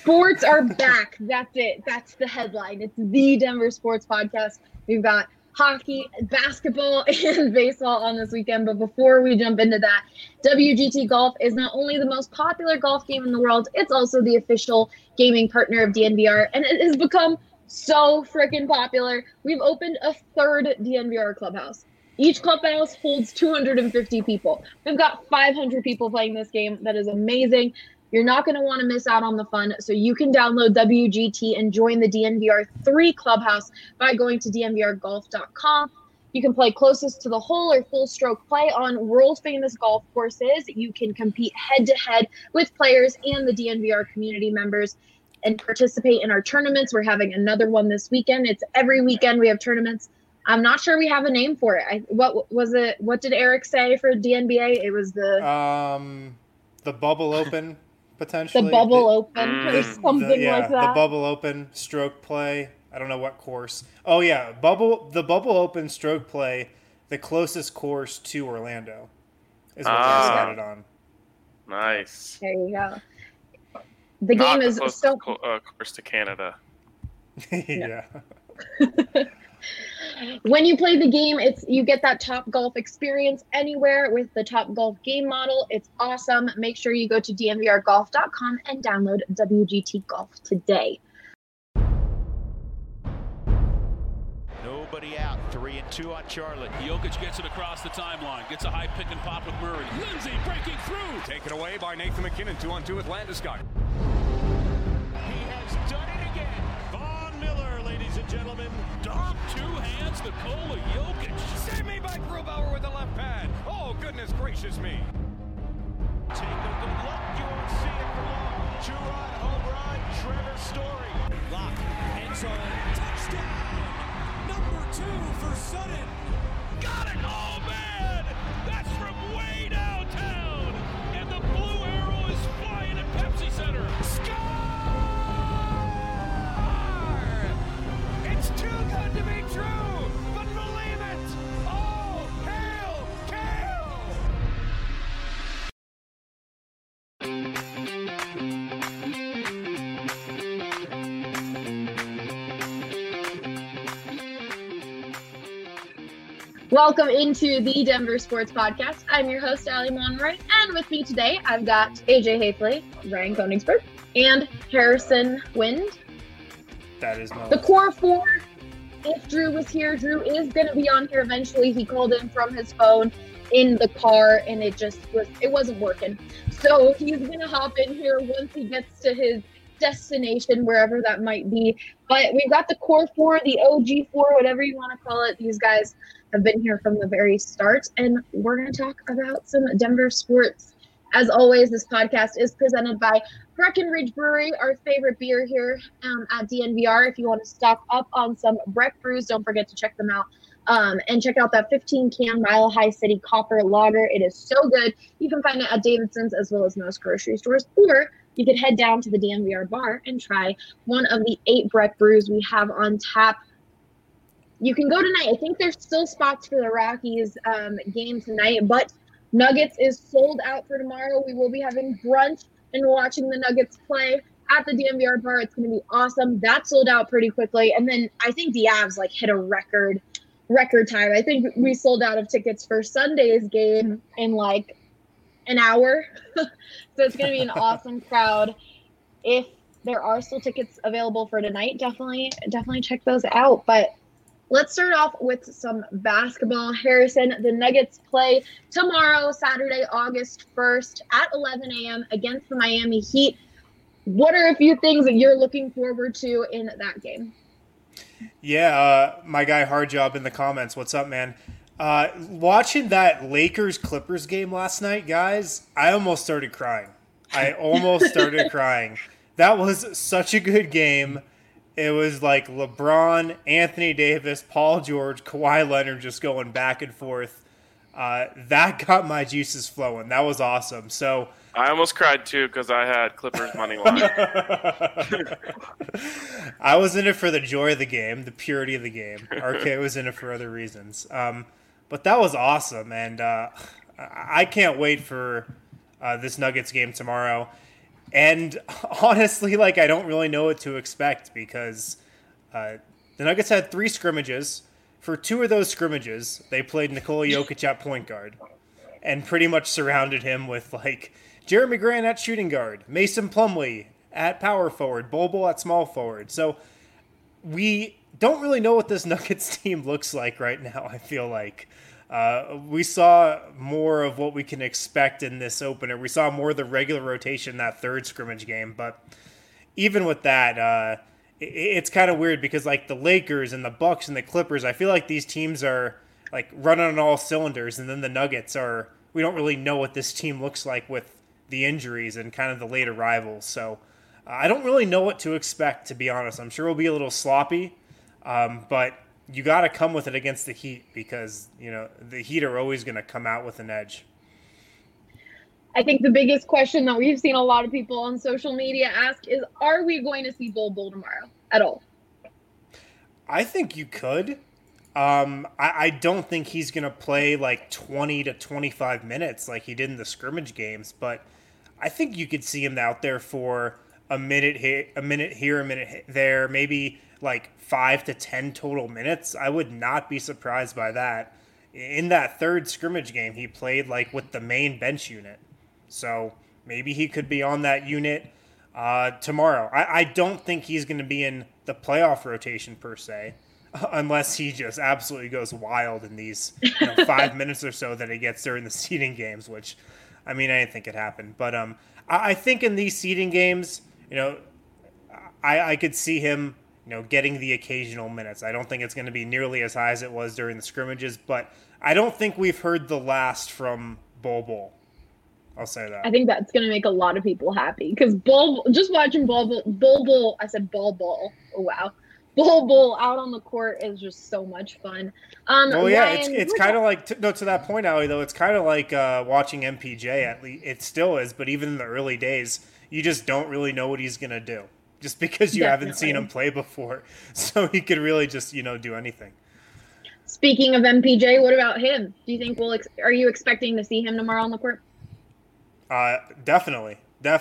Sports are back. That's it. That's the headline. It's the Denver Sports Podcast. We've got hockey, basketball, and baseball on this weekend. But before we jump into that, WGT Golf is not only the most popular golf game in the world, it's also the official gaming partner of DNVR, and it has become so freaking popular. We've opened a third DNVR clubhouse. Each clubhouse holds 250 people. We've got 500 people playing this game. That is amazing. You're not going to want to miss out on the fun, so you can download WGT and join the DNVR 3 Clubhouse by going to dnvrgolf.com. You can play closest to the hole or full stroke play on world-famous golf courses. You can compete head-to-head with players and the DNVR community members and participate in our tournaments. We're having another one this weekend. It's every weekend we have tournaments. I'm not sure we have a name for it. What was it? What did Eric say for DNBA? It was the Bubble Open. Potentially the Bubble Open or something like that. The Bubble Open stroke play. I don't know what course. Oh yeah, the Bubble Open stroke play, the closest course to Orlando is what they decided on. Nice. There you go. The game is so course to Canada. Yeah. When you play the game, you get that Top Golf experience anywhere with the Top Golf game model. It's awesome. Make sure you go to dnvrgolf.com and download WGT Golf today. Nobody out. 3-2 on Charlotte. Jokic gets it across the timeline. Gets a high pick and pop with Murray. Lindsay breaking through. Taken away by Nathan McKinnon. 2-on-2 with Landeskog. He has done it again. Von Miller, ladies and gentlemen. Dunk, two hands, Nikola Jokic. Save me by Grubauer with the left pad. Oh, goodness gracious me. Take a good look. You won't see it for long. Two-run home run, Trevor Story. Lock, end zone, touchdown. Number 2 for Sutton. Got it! Oh, man! That's from way downtown! And the blue arrow is flying at Pepsi Center. Score! It's too good to be true, but believe it! Oh, hail, Kale! Welcome into the Denver Sports Podcast. I'm your host, Ali Monroy, and with me today, I've got AJ Hafley, Ryan Koenigsberg, and Harrison Wind. That is my The core four. If Drew was here, Drew is going to be on here eventually. He called in from his phone in the car, and it wasn't working. So he's going to hop in here once he gets to his destination, wherever that might be. But we've got the core four, the OG four, whatever you want to call it. These guys have been here from the very start, and we're going to talk about some Denver sports. As always, this podcast is presented by Breckenridge Brewery, our favorite beer here at DNVR. If you want to stock up on some Breck brews, don't forget to check them out. And check out that 15-can Mile High City Copper Lager. It is so good. You can find it at Davidson's as well as most grocery stores, or you could head down to the DNVR bar and try one of the 8 Breck brews we have on tap. You can go tonight. I think there's still spots for the Rockies game tonight, but Nuggets is sold out for tomorrow. We will be having brunch and watching the Nuggets play at the DNVR bar. It's going to be awesome. That sold out pretty quickly. And then I think the Avs hit a record time. I think we sold out of tickets for Sunday's game in an hour. So it's going to be an awesome crowd. If there are still tickets available for tonight, definitely check those out. But let's start off with some basketball. Harrison, the Nuggets play tomorrow, Saturday, August 1st at 11 a.m. against the Miami Heat. What are a few things that you're looking forward to in that game? Yeah, my guy Hardjob in the comments. What's up, man? Watching that Lakers-Clippers game last night, guys, I almost started crying. That was such a good game. It was like LeBron, Anthony Davis, Paul George, Kawhi Leonard just going back and forth. That got my juices flowing. That was awesome. So I almost cried too because I had Clippers money line. I was in it for the joy of the game, the purity of the game. RK was in it for other reasons. But that was awesome, and I can't wait for this Nuggets game tomorrow. And honestly, like, I don't really know what to expect because the Nuggets had 3 scrimmages. For 2 of those scrimmages, they played Nikola Jokic at point guard and pretty much surrounded him with, like, Jeremy Grant at shooting guard, Mason Plumlee at power forward, Bol Bol at small forward. So we don't really know what this Nuggets team looks like right now, I feel like. We saw more of what we can expect in this opener. We saw more of the regular rotation in that 3rd scrimmage game. But even with that, it's kind of weird because, like, the Lakers and the Bucks and the Clippers, I feel like these teams are, like, running on all cylinders. And then the Nuggets are, we don't really know what this team looks like with the injuries and kind of the late arrivals. So I don't really know what to expect, to be honest. I'm sure we'll be a little sloppy, but you got to come with it against the Heat because, you know, the Heat are always going to come out with an edge. I think the biggest question that we've seen a lot of people on social media ask is, are we going to see Bol Bol tomorrow at all? I think you could. I don't think he's going to play like 20 to 25 minutes like he did in the scrimmage games, but I think you could see him out there for a minute here, a minute there, maybe like 5 to 10 total minutes. I would not be surprised by that. In that 3rd scrimmage game, he played like with the main bench unit. So maybe he could be on that unit tomorrow. I don't think he's going to be in the playoff rotation per se, unless he just absolutely goes wild in these 5 minutes or so that he gets during the seeding games, which, I mean, I didn't think it happened. But I think in these seeding games, you know, I could see him, you know, getting the occasional minutes. I don't think it's going to be nearly as high as it was during the scrimmages, but I don't think we've heard the last from Bol Bol. I'll say that. I think that's going to make a lot of people happy because just watching Bol Bol, I said Bol Bol. Oh, wow. Bol Bol out on the court is just so much fun. Well, yeah, it's kind of like, to that point, Allie, though, it's kind of like watching MPJ. At least it still is, but even in the early days, you just don't really know what he's going to do just because you haven't seen him play before. So he could really just, you know, do anything. Speaking of MPJ, what about him? Do you think are you expecting to see him tomorrow on the court? Definitely.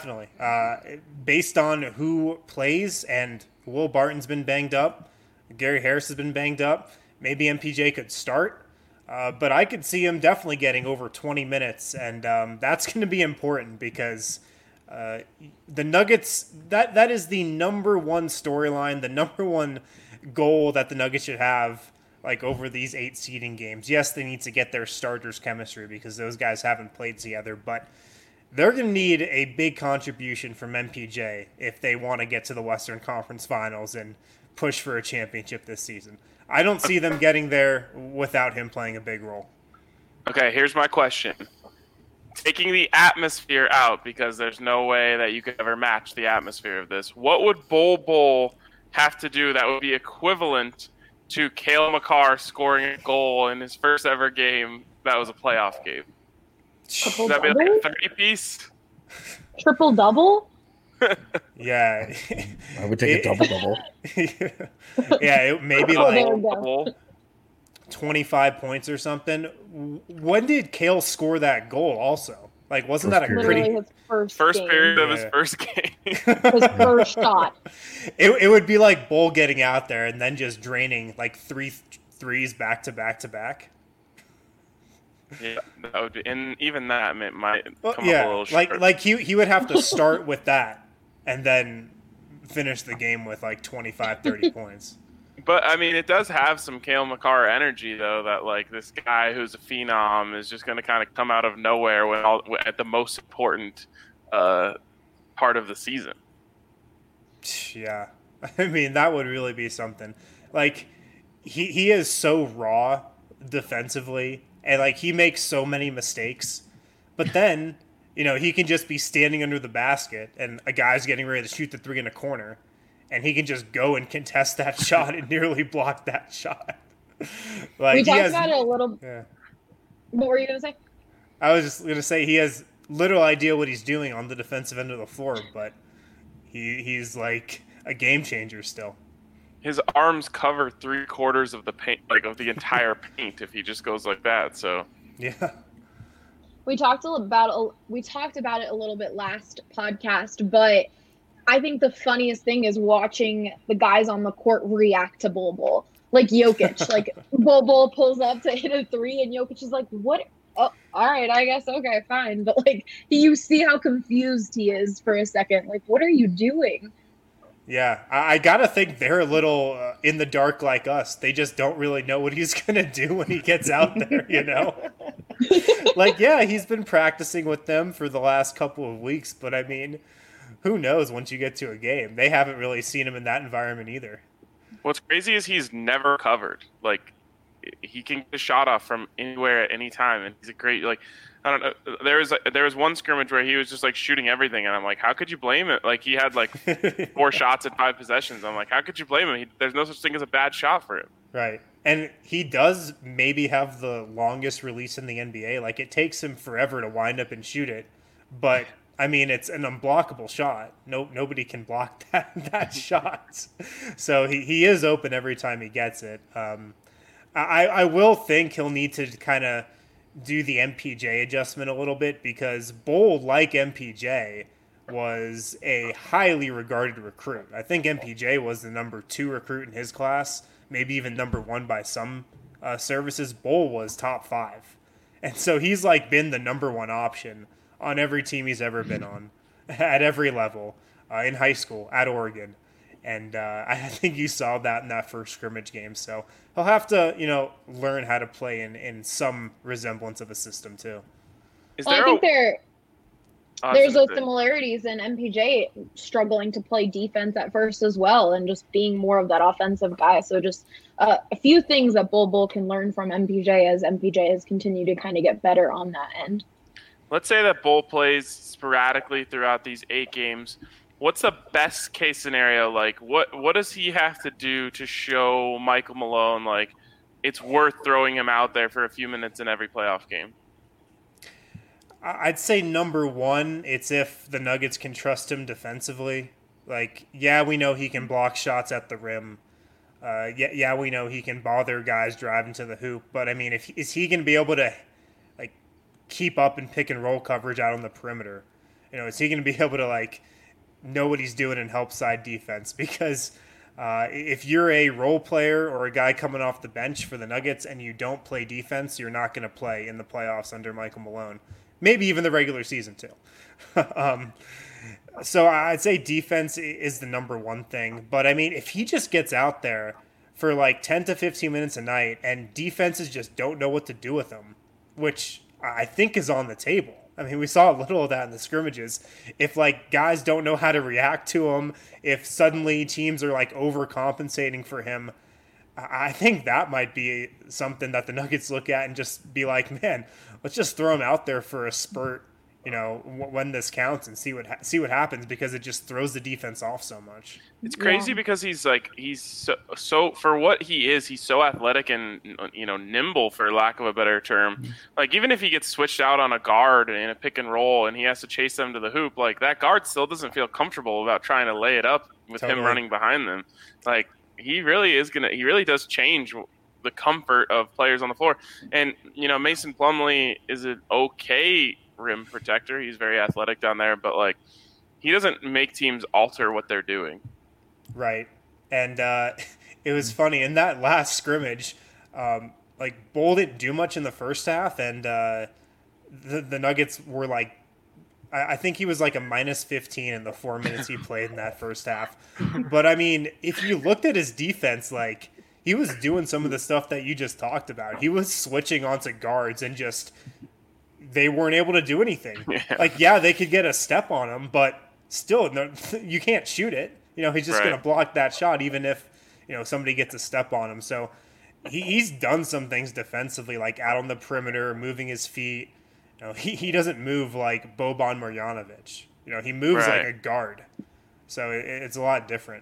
Based on who plays, and Will Barton's been banged up, Gary Harris has been banged up, maybe MPJ could start, but I could see him definitely getting over 20 minutes, and that's going to be important because the Nuggets, that is the number one storyline, the number one goal that the Nuggets should have, like, over these 8 seeding games. Yes, they need to get their starters chemistry because those guys haven't played together, but they're going to need a big contribution from MPJ if they want to get to the Western Conference Finals and push for a championship this season. I don't see them getting there without him playing a big role. Okay, here's my question. Taking the atmosphere out, because there's no way that you could ever match the atmosphere of this, what would Bol Bol have to do that would be equivalent to Cale Makar scoring a goal in his first ever game that was a playoff game? Would that be like a 30-piece? Triple-double? Yeah. I would take a double-double. Yeah, maybe like 25 points or something. When did Cale score that goal also? Like, wasn't that a pretty... his first period of his first game. His first shot. It would be like Bol getting out there and then just draining like 3 threes back to back to back. Yeah, that would be, and even that might come up a little short. Like he would have to start with that and then finish the game with like 25, 30 points. But, I mean, it does have some Cale Makar energy, though, that, like, this guy who's a phenom is just going to kind of come out of nowhere at the most important part of the season. Yeah. I mean, that would really be something. Like, he is so raw defensively, and, like, he makes so many mistakes. But then, you know, he can just be standing under the basket, and a guy's getting ready to shoot the 3 in a corner, and he can just go and contest that shot and nearly block that shot. Like, we talked about it a little. Yeah. What were you going to say? I was just going to say he has little idea what he's doing on the defensive end of the floor, but he's like a game changer still. His arms cover 3/4 of the paint, like of the entire paint, if he just goes like that. So yeah. we talked about it a little bit last podcast, but I think the funniest thing is watching the guys on the court react to Bol Bol. Like Jokic, like Bol Bol pulls up to hit a three, and Jokic is like, "What? Oh, all right, I guess. Okay, fine." But like, you see how confused he is for a second. Like, what are you doing? Yeah, I gotta think they're a little in the dark like us. They just don't really know what he's gonna do when he gets out there, you know? Like, yeah, he's been practicing with them for the last couple of weeks, but I mean, who knows once you get to a game? They haven't really seen him in that environment either. What's crazy is he's never covered. Like, he can get a shot off from anywhere at any time, and he's a great, like, I don't know. There was one scrimmage where he was just like shooting everything, and I'm like, how could you blame it? Like, he had like 4 shots in 5 possessions. I'm like, how could you blame him? There's no such thing as a bad shot for him. Right. And he does maybe have the longest release in the NBA. Like, it takes him forever to wind up and shoot it, but I mean, it's an unblockable shot. Nobody can block that shot. So he is open every time he gets it. I will think he'll need to kind of do the MPJ adjustment a little bit, because Bol, like MPJ, was a highly regarded recruit. I think MPJ was the number 2 recruit in his class, maybe even number 1 by some services. Bol was top 5. And so he's like been the number 1 option on every team he's ever been on, at every level, in high school, at Oregon. And I think you saw that in that first scrimmage game. So he'll have to, learn how to play in some resemblance of a system too. I think there's those similarities in MPJ struggling to play defense at first as well, and just being more of that offensive guy. So just a few things that Bol Bol can learn from MPJ as MPJ has continued to kind of get better on that end. Let's say that Bol plays sporadically throughout these 8 games. What's the best case scenario? Like, what does he have to do to show Michael Malone, like, it's worth throwing him out there for a few minutes in every playoff game? I'd say number 1, it's if the Nuggets can trust him defensively. Like, yeah, we know he can block shots at the rim. Yeah, we know he can bother guys driving to the hoop. But, I mean, is he going to be able to, like, keep up in pick and roll coverage out on the perimeter? Is he going to be able to, like, know what he's doing in help side defense? Because if you're a role player or a guy coming off the bench for the Nuggets and you don't play defense, you're not going to play in the playoffs under Michael Malone. Maybe even the regular season too. So I'd say defense is the number 1 thing. But I mean, if he just gets out there for like 10 to 15 minutes a night and defenses just don't know what to do with him, which I think is on the table. I mean, we saw a little of that in the scrimmages. If, like, guys don't know how to react to him, if suddenly teams are, like, overcompensating for him, I think that might be something that the Nuggets look at and just be like, man, let's just throw him out there for a spurt, when this counts, and see what happens, because it just throws the defense off so much. It's crazy because he's so for what he is, he's so athletic and nimble, for lack of a better term. Like, even if he gets switched out on a guard in a pick and roll and he has to chase them to the hoop, like, that guard still doesn't feel comfortable about trying to lay it up with him running behind them. Like, he really does change the comfort of players on the floor. And Mason Plumlee is an okay rim protector. He's very athletic down there, but like, he doesn't make teams alter what they're doing. Right. And it was funny in that last scrimmage, like, Bol didn't do much in the first half, and the Nuggets were like, I think he was like a minus 15 in the 4 minutes he played in that first half. But I mean, if you looked at his defense, like, he was doing some of the stuff that you just talked about. He was switching onto guards and just, they weren't able to do anything. Yeah. Like, yeah, they could get a step on him, but still, no, you can't shoot it. He's just going to block that shot, even if, somebody gets a step on him. So he's done some things defensively, like out on the perimeter, moving his feet. He doesn't move like Boban Marjanovic. He moves like a guard. So it's a lot different.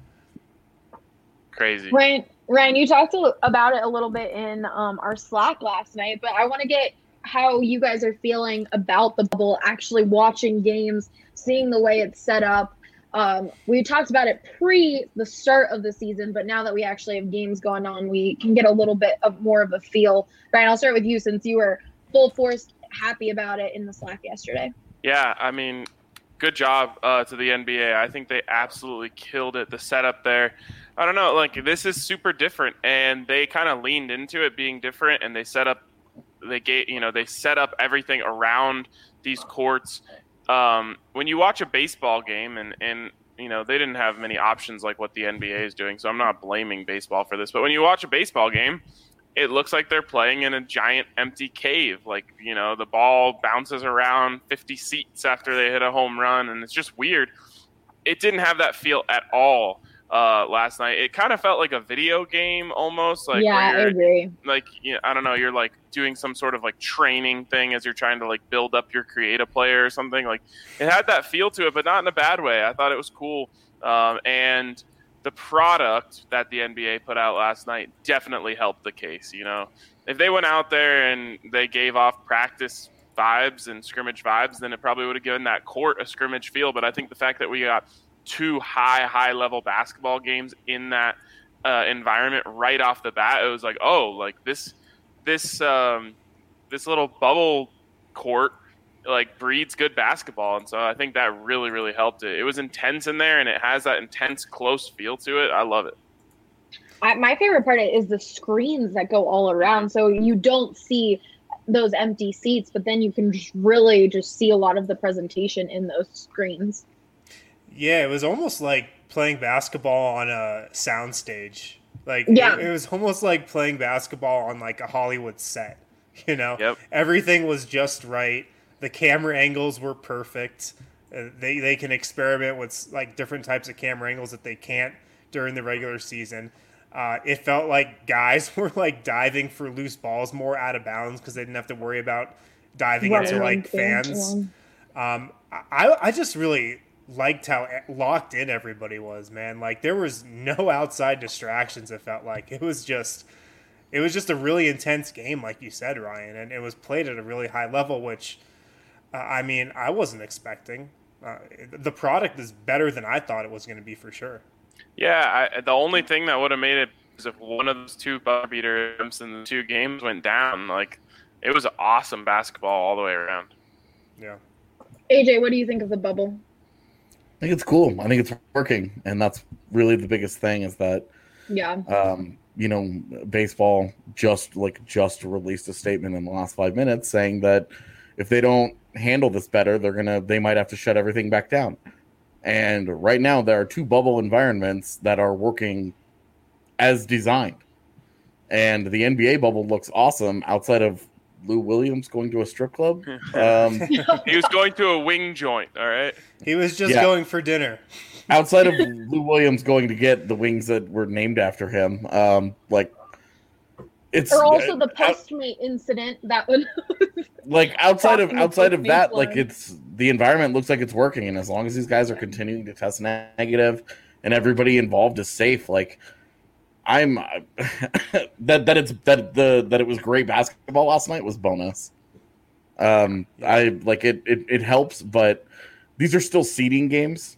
Crazy. Ryan, you talked about it a little bit in our Slack last night, but I want to get how you guys are feeling about the bubble, actually watching games, seeing the way it's set up. We talked about it pre the start of the season, but now that we actually have games going on, we can get a little bit of more of a feel. Ryan, I'll start with you, since you were full force happy about it in the Slack yesterday. Yeah, I mean, good job to the NBA. I think they absolutely killed it. The setup there, I don't know, like this is super different, and they kind of leaned into it being different, and they set up everything around these courts. When you watch a baseball game, and they didn't have many options like what the NBA is doing, so I'm not blaming baseball for this. But when you watch a baseball game, it looks like they're playing in a giant empty cave. Like, the ball bounces around 50 seats after they hit a home run, and it's just weird. It didn't have that feel at all last night. It kind of felt like a video game almost. Like, yeah, I agree. Like, I don't know, you're like doing some sort of like training thing as you're trying to like build up your creative player or something. Like, it had that feel to it, but not in a bad way. I thought it was cool. And the product that the NBA put out last night definitely helped the case. If they went out there and they gave off practice vibes and scrimmage vibes, then it probably would have given that court a scrimmage feel. But I think the fact that we got two high level basketball games in that environment right off the bat, it was like, oh, like this little bubble court like breeds good basketball. And so I think that really, really helped it. It was intense in there, and it has that intense, close feel to it. I love it. My favorite part is the screens that go all around. So you don't see those empty seats, but then you can really see a lot of the presentation in those screens. Yeah, it was almost like playing basketball on a soundstage. Like, yeah. It was almost like playing basketball on like a Hollywood set. Yep. Everything was just right. The camera angles were perfect. They can experiment with like different types of camera angles that they can't during the regular season. It felt like guys were like diving for loose balls more out of bounds because they didn't have to worry about diving into like fans. I just really liked how locked in everybody was, man. Like, there was no outside distractions. It felt like it was just a really intense game, like you said, Ryan, and it was played at a really high level, which I wasn't expecting. The product is better than I thought it was going to be, for sure. Yeah, the only thing that would have made it is if one of those two buzzer beater attempts in the two games went down. Like, it was awesome basketball all the way around. Yeah. AJ, what do you think of the bubble? I think it's cool. I think it's working, and that's really the biggest thing is that. Yeah. Baseball just released a statement in the last 5 minutes saying that if they don't handle this better, they might have to shut everything back down. And right now there are two bubble environments that are working as designed. And the NBA bubble looks awesome outside of Lou Williams going to a strip club. He was going to a wing joint, all right? He was just going for dinner. Outside of Lou Williams going to get the wings that were named after him, it's or also the Postmate incident that would like outside of that, like it's the environment looks like it's working, and as long as these guys are continuing to test negative and everybody involved is safe, like I'm that it was great basketball last night was bonus. I like it helps, but these are still seeding games.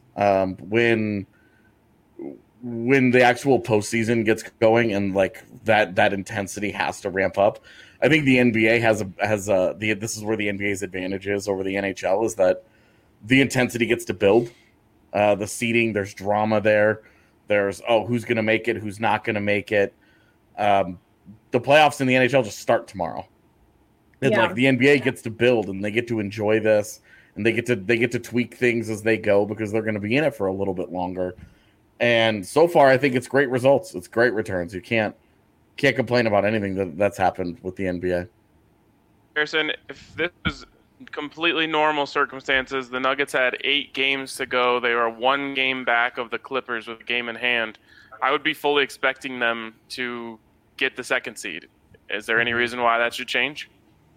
When the actual postseason gets going and like that intensity has to ramp up, I think the NBA this is where the NBA's advantage is over the NHL is that the intensity gets to build. The seeding, there's drama there. There's who's going to make it, who's not going to make it. The playoffs in the NHL just start tomorrow. And like the NBA gets to build and they get to enjoy this and they get to tweak things as they go because they're going to be in it for a little bit longer. And so far, I think it's great results. It's great returns. You can't complain about anything that's happened with the NBA. Harrison, if this was completely normal circumstances, the Nuggets had 8 games to go. They were 1 game back of the Clippers with a game in hand. I would be fully expecting them to get the second seed. Is there any reason why that should change?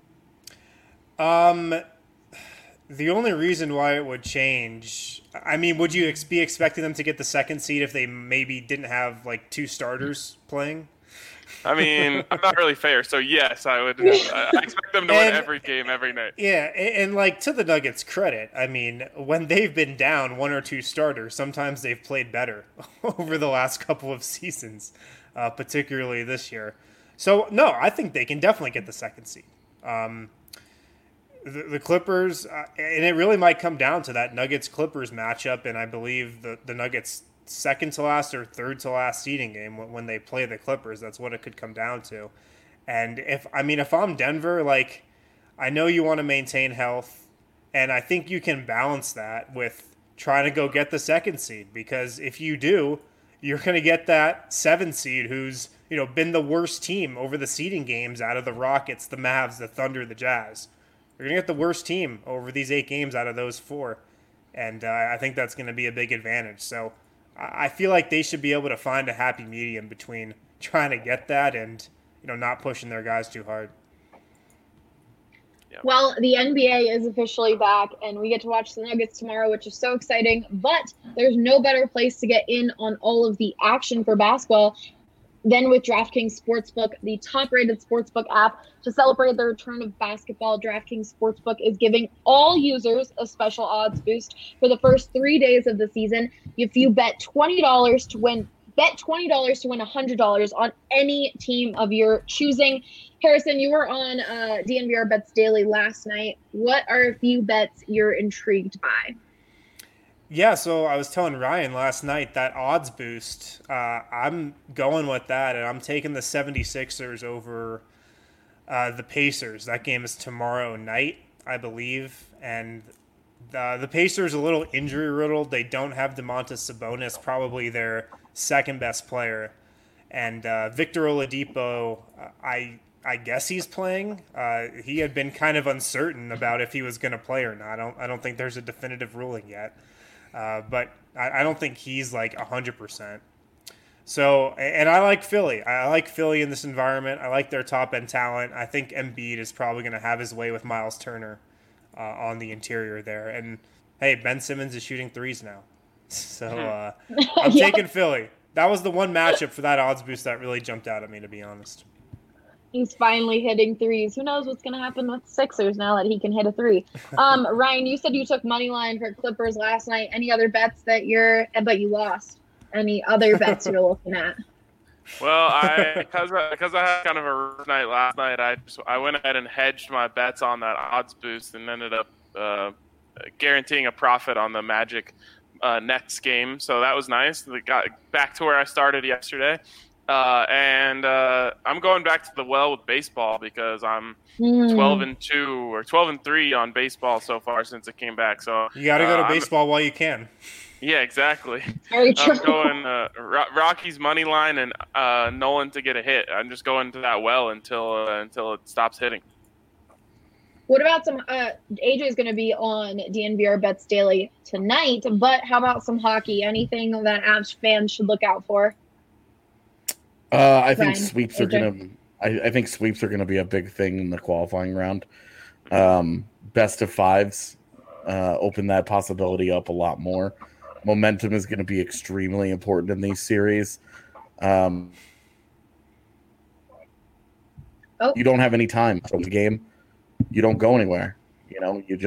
The only reason why it would change, I mean, would you be expecting them to get the second seed if they maybe didn't have like 2 starters playing? I mean, I'm not really fair, so yes, I would. I expect them to win every game, every night. Yeah, and like to the Nuggets' credit, I mean, when they've been down 1 or 2 starters, sometimes they've played better over the last couple of seasons, particularly this year. So no, I think they can definitely get the second seed. the Clippers, and it really might come down to that Nuggets-Clippers matchup, and I believe the Nuggets' second to last or third to last seeding game when they play the Clippers. That's what it could come down to. And if I'm Denver, like, I know you want to maintain health, and I think you can balance that with trying to go get the second seed, because if you do, you're going to get that 7 seed who's, been the worst team over the seeding games out of the Rockets, the Mavs, the Thunder, the Jazz. You're going to get the worst team over these 8 games out of those 4. And I think that's going to be a big advantage. So I feel like they should be able to find a happy medium between trying to get that and, not pushing their guys too hard. Well, the NBA is officially back, and we get to watch the Nuggets tomorrow, which is so exciting. But there's no better place to get in on all of the action for basketball than with DraftKings Sportsbook, the top-rated sportsbook app. To celebrate the return of basketball, DraftKings Sportsbook is giving all users a special odds boost for the first 3 days of the season. If you bet $20 to win $100 on any team of your choosing. Harrison, you were on DNVR Bets Daily last night. What are a few bets you're intrigued by? Yeah, so I was telling Ryan last night that odds boost, I'm going with that, and I'm taking the 76ers over the Pacers. That game is tomorrow night, I believe, and the Pacers are a little injury-riddled. They don't have Domantas Sabonis, probably their second-best player, and Victor Oladipo, I guess he's playing. He had been kind of uncertain about if he was going to play or not. I don't think there's a definitive ruling yet. But I don't think he's like 100%. So, and I like Philly. I like Philly in this environment. I like their top-end talent. I think Embiid is probably going to have his way with Miles Turner on the interior there. And, hey, Ben Simmons is shooting threes now. So I'm taking Philly. That was the one matchup for that odds boost that really jumped out at me, to be honest. He's finally hitting threes. Who knows what's going to happen with Sixers now that he can hit a 3? Ryan, you said you took money line for Clippers last night. Any other bets but you lost? Any other bets you're looking at? Well, because I had kind of a rough night last night, I went ahead and hedged my bets on that odds boost and ended up guaranteeing a profit on the Magic Nets game. So that was nice. We got back to where I started yesterday. And I'm going back to the well with baseball because I'm 12-2 or 12-3 on baseball so far since it came back. So you got to go to baseball while you can. Yeah, exactly. Very true. I'm going Rocky's money line and Nolan to get a hit. I'm just going to that well until it stops hitting. What about some AJ is going to be on DNVR Bets Daily tonight, but how about some hockey? Anything that Avs fans should look out for? I think sweeps are gonna. I think sweeps are gonna be a big thing in the qualifying round. Best of fives open that possibility up a lot more. Momentum is going to be extremely important in these series. You don't have any time from the game. You don't go anywhere. You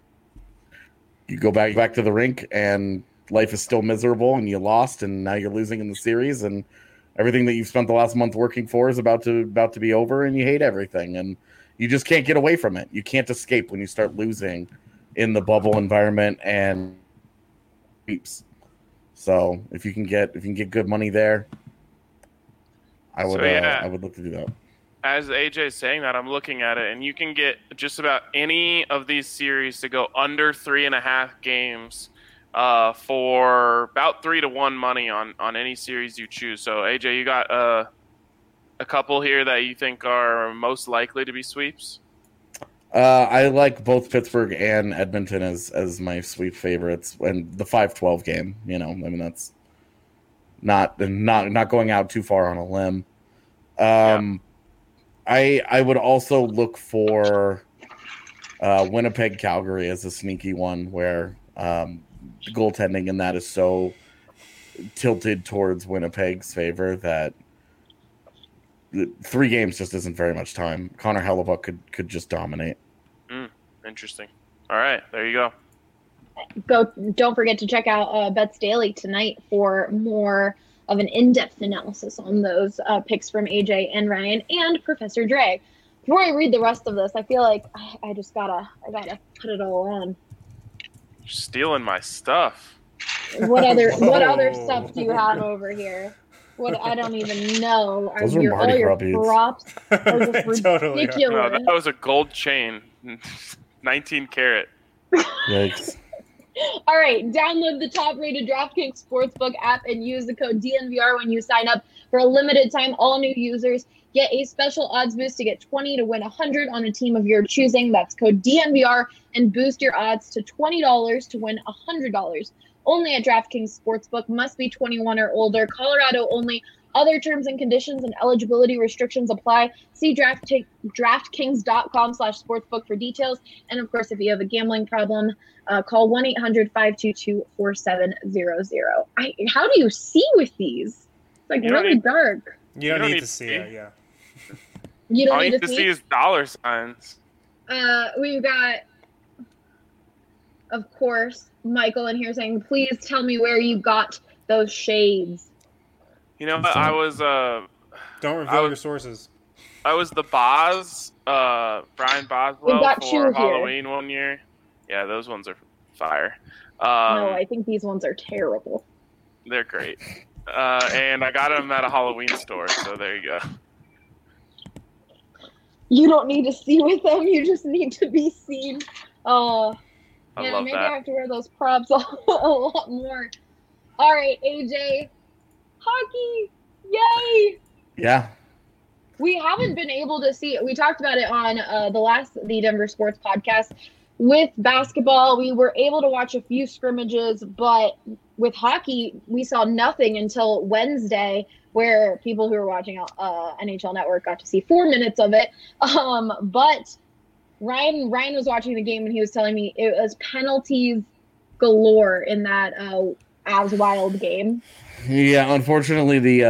go back to the rink, and life is still miserable, and you lost, and now you're losing in the series, and everything that you've spent the last month working for is about to be over, and you hate everything, and you just can't get away from it. You can't escape when you start losing in the bubble environment and sweeps. So if you can get good money there, I would look to do that. As AJ is saying that, I'm looking at it, and you can get just about any of these series to go under 3.5 games. For about 3-1 money on any series you choose. So AJ, you got a couple here that you think are most likely to be sweeps? I like both Pittsburgh and Edmonton as my sweep favorites, and the 5-12 game. That's not going out too far on a limb. I would also look for Winnipeg Calgary as a sneaky one where the goaltending in that is so tilted towards Winnipeg's favor that 3 games just isn't very much time. Connor Hellebuyck could just dominate. Interesting. All right, there you go. Don't forget to check out Bets Daily tonight for more of an in-depth analysis on those picks from AJ and Ryan and Professor Dre. Before I read the rest of this, I feel like I gotta put it all on. You're stealing my stuff. What other Whoa. stuff do you have over here? What I don't even know. Those are Mardi all your Gras beads. props are just Totally. ridiculous. No, that was a gold chain, 19 karat. Yikes. All right, download the top-rated DraftKings Sportsbook app and use the code DNVR when you sign up. For a limited time, all new users get a special odds boost to get 20 to win 100 on a team of your choosing. That's code DNVR and boost your odds to $20 to win $100. Only at DraftKings Sportsbook. Must be 21 or older. Colorado only. Other terms and conditions and eligibility restrictions apply. See DraftKings.com/sportsbook for details. And of course, if you have a gambling problem, call 1-800-522-4700. How do you see with these? It's like really dark. You don't need to see it, yeah. You don't All need you to see. is dollar signs. We've got, of course, Michael in here saying, "Please tell me where you got those shades." You know what? I was Don't reveal your sources. I was the Boz, Brian We've Boswell got for two here. Halloween one year. Yeah, those ones are fire. No, I think these ones are terrible. They're great. And I got them at a Halloween store, so there you go. You don't need to see with them. You just need to be seen. I Yeah, love maybe that. I have to wear those props a lot more. All right, AJ. Hockey. Yay. Yeah. We haven't been able to see it. We talked about it on the Denver Sports Podcast. With basketball, we were able to watch a few scrimmages, but with hockey, we saw nothing until Wednesday, where people who were watching NHL Network got to see 4 minutes of it. But Ryan was watching the game, and he was telling me it was penalties galore in that Avs Wild game. Yeah, unfortunately, the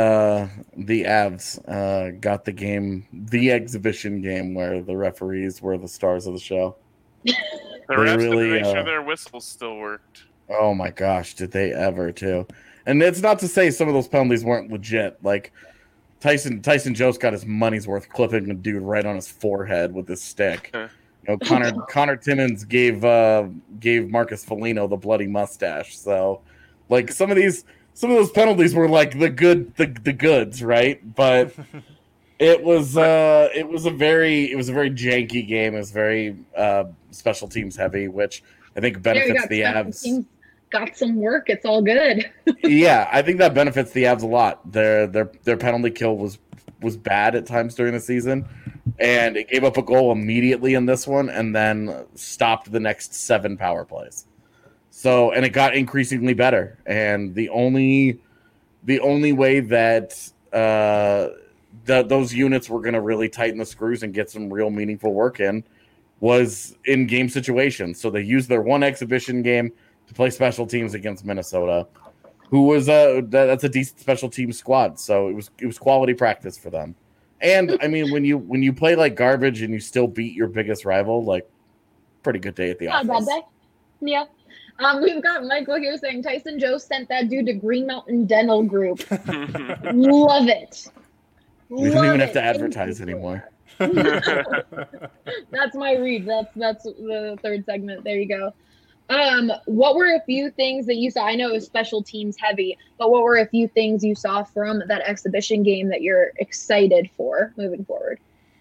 Avs got the game, the exhibition game, where the referees were the stars of the show. The They refs really, to make sure their whistles still worked. Oh my gosh, did they ever too? And it's not to say some of those penalties weren't legit. Like Tyson Jost got his money's worth clipping a dude right on his forehead with his stick. You know, Connor Timmins gave Marcus Foligno the bloody mustache. So, like some of those penalties were like the goods, right? But it was a very janky game. It was very special teams heavy, which I think benefits the Avs. Got some work. It's all good. Yeah, I think that benefits the Avs a lot. Their penalty kill was bad at times during the season, and it gave up a goal immediately in this one, and then stopped the next 7 power plays. So, and it got increasingly better. And the only way that those units were going to really tighten the screws and get some real meaningful work in was in game situations. So they used their one exhibition game to play special teams against Minnesota, who was that's a decent special team squad. So it was quality practice for them. And I mean, when you play like garbage and you still beat your biggest rival, like pretty good day at the office. Not a bad day. Yeah. We've got Michael here saying Tyson Jost sent that dude to Green Mountain Dental Group. Love it. We don't even have to advertise anymore. That's my read. That's the third segment. There you go. What were a few things that you saw? I know it was special teams heavy, but what were a few things you saw from that exhibition game that you're excited for moving forward?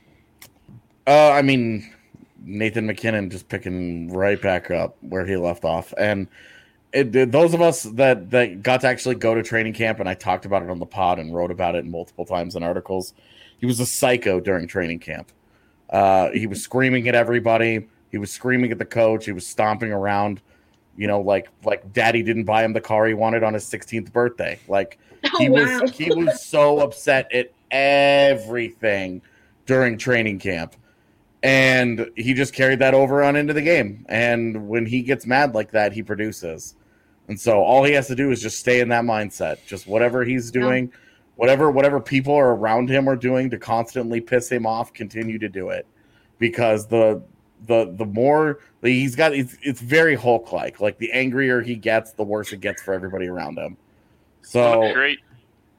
I mean, Nathan McKinnon just picking right back up where he left off. And those of us that got to actually go to training camp, and I talked about it on the pod and wrote about it multiple times in articles, he was a psycho during training camp. He was screaming at everybody. He was screaming at the coach. He was stomping around, you know, like daddy didn't buy him the car he wanted on his 16th birthday. Like he was so upset at everything during training camp. And he just carried that over on into the game. And when he gets mad like that, he produces. And so all he has to do is just stay in that mindset. Just whatever he's doing, whatever people are around him are doing to constantly piss him off, continue to do it. Because the more he's got, it's very Hulk-like. Like the angrier he gets, the worse it gets for everybody around him. So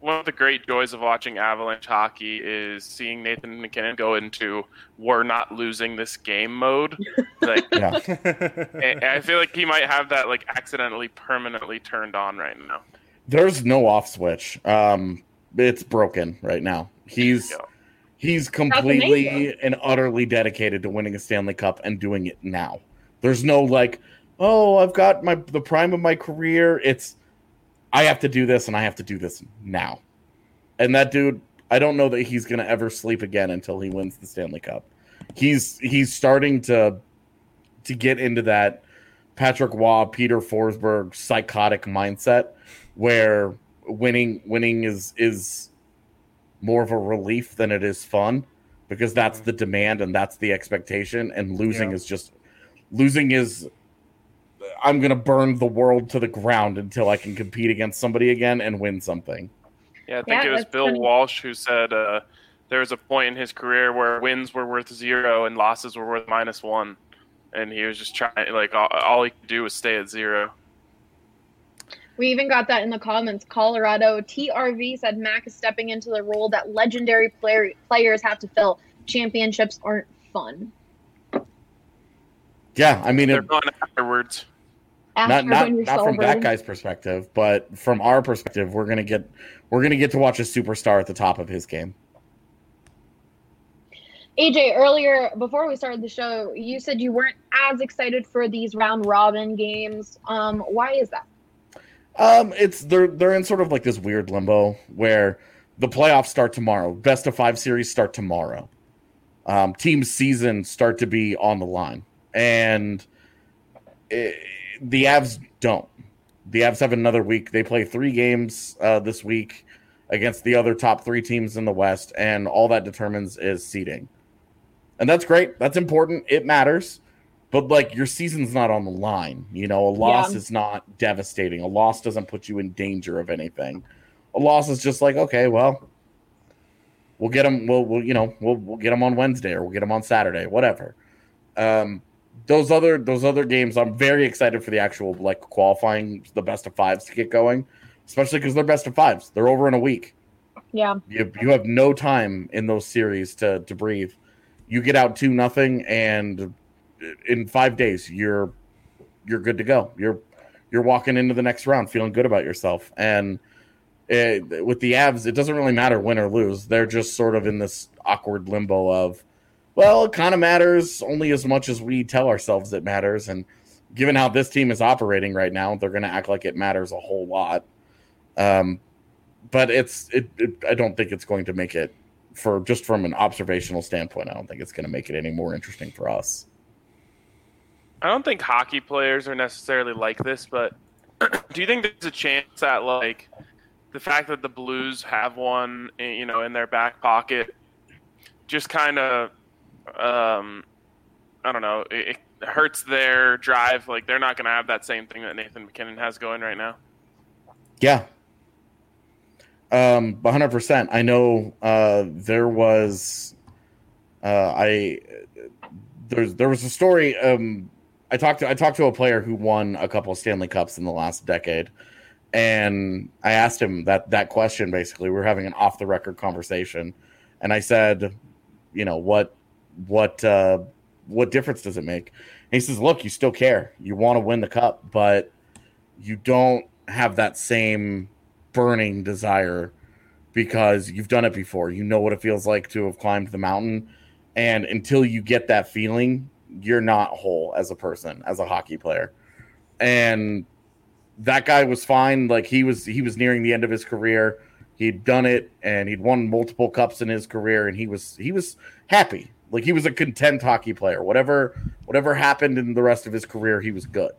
one of the great joys of watching Avalanche hockey is seeing Nathan MacKinnon go into "we're not losing this game" mode. Like, Yeah. and I feel like he might have that like accidentally permanently turned on right now. There's no off switch. It's broken right now. He's completely amazing. and utterly dedicated to winning a Stanley Cup and doing it now. There's no like, oh, I've got the prime of my career. It's I have to do this and I have to do this now. And that dude, I don't know that he's gonna ever sleep again until he wins the Stanley Cup. He's starting to get into that Patrick Waugh, Peter Forsberg psychotic mindset where winning is more of a relief than it is fun, because that's the demand and that's the expectation, and losing is I'm going to burn the world to the ground until I can compete against somebody again and win something. Yeah, I think it was that's Bill funny. Walsh who said there was a point in his career where wins were worth 0 and losses were worth -1. And he was just trying, like, all he could do was stay at 0. We even got that in the comments. Colorado TRV said Mac is stepping into the role that legendary players have to fill. Championships aren't fun. Yeah, I mean, They're gone afterwards. After not when you're from that celebrating. guy's perspective, but from our perspective, we're gonna get to watch a superstar at the top of his game. AJ, earlier before we started the show, you said you weren't as excited for these round robin games. Why is that? It's they're in sort of like this weird limbo where the playoffs start tomorrow. Best of 5 series start tomorrow. Team seasons start to be on the line, and the Avs don't. The Avs have another week. They play 3 games this week against the other top 3 teams in the West, and all that determines is seeding. And that's great. That's important. It matters. But, like, your season's not on the line. You know, a loss is not devastating. A loss doesn't put you in danger of anything. A loss is just like, okay, well, we'll get them. We'll get them on Wednesday, or we'll get them on Saturday, whatever. Those other games, I'm very excited for the actual, like, qualifying, the best of 5s to get going, especially because they're best of 5s. They're over in a week. Yeah. You have no time in those series to breathe. You get out 2-0, and in 5 days you're good to go. You're walking into the next round feeling good about yourself. And with the Avs, it doesn't really matter win or lose. They're just sort of in this awkward limbo of, well, it kind of matters only as much as we tell ourselves it matters. And given how this team is operating right now, they're going to act like it matters a whole lot. But I don't think it's going to make it, for just from an observational standpoint, I don't think it's going to make it any more interesting for us. I don't think hockey players are necessarily like this, but do you think there's a chance that, like, the fact that the Blues have one, you know, in their back pocket just kind of, I don't know, it hurts their drive? Like, they're not going to have that same thing that Nathan MacKinnon has going right now. Yeah. 100%. I know there was there was a story. I talked to a player who won a couple of Stanley Cups in the last decade, and I asked him that question. Basically, we were having an off the record conversation, and I said, you know, what difference does it make? And he says, look, you still care. You want to win the cup, but you don't have that same burning desire because you've done it before. You know what it feels like to have climbed the mountain, and until you get that feeling, you're not whole as a person, as a hockey player. And that guy was fine. Like, he was nearing the end of his career. He'd done it, and he'd won multiple cups in his career, and he was happy. Like, he was a content hockey player. Whatever happened in the rest of his career, he was good.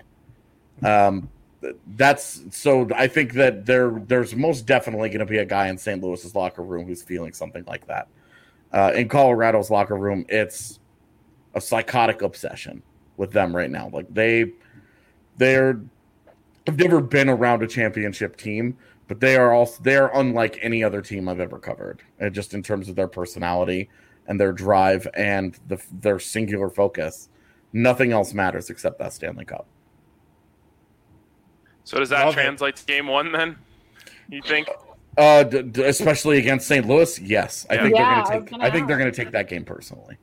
So I think that there's most definitely going to be a guy in St. Louis's locker room who's feeling something like that. In Colorado's locker room, it's a psychotic obsession with them right now. Like, they've never been around a championship team, but they are unlike any other team I've ever covered, just in terms of their personality and their drive and their singular focus. Nothing else matters except that Stanley Cup. So does that translate to game 1 then, you think? Especially against St. Louis, yes. I think Yeah, they're going to take that game personally.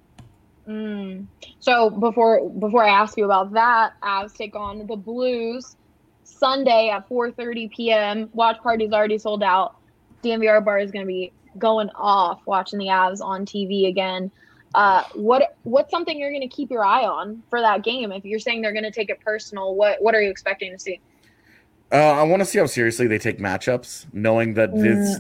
So before I ask you about that, Avs take on the Blues Sunday at 4:30 p.m. Watch party's already sold out. DNVR bar is going to be going off watching the Avs on TV again. What's something you're going to keep your eye on for that game? If you're saying they're going to take it personal, what are you expecting to see? I want to see how seriously they take matchups, knowing that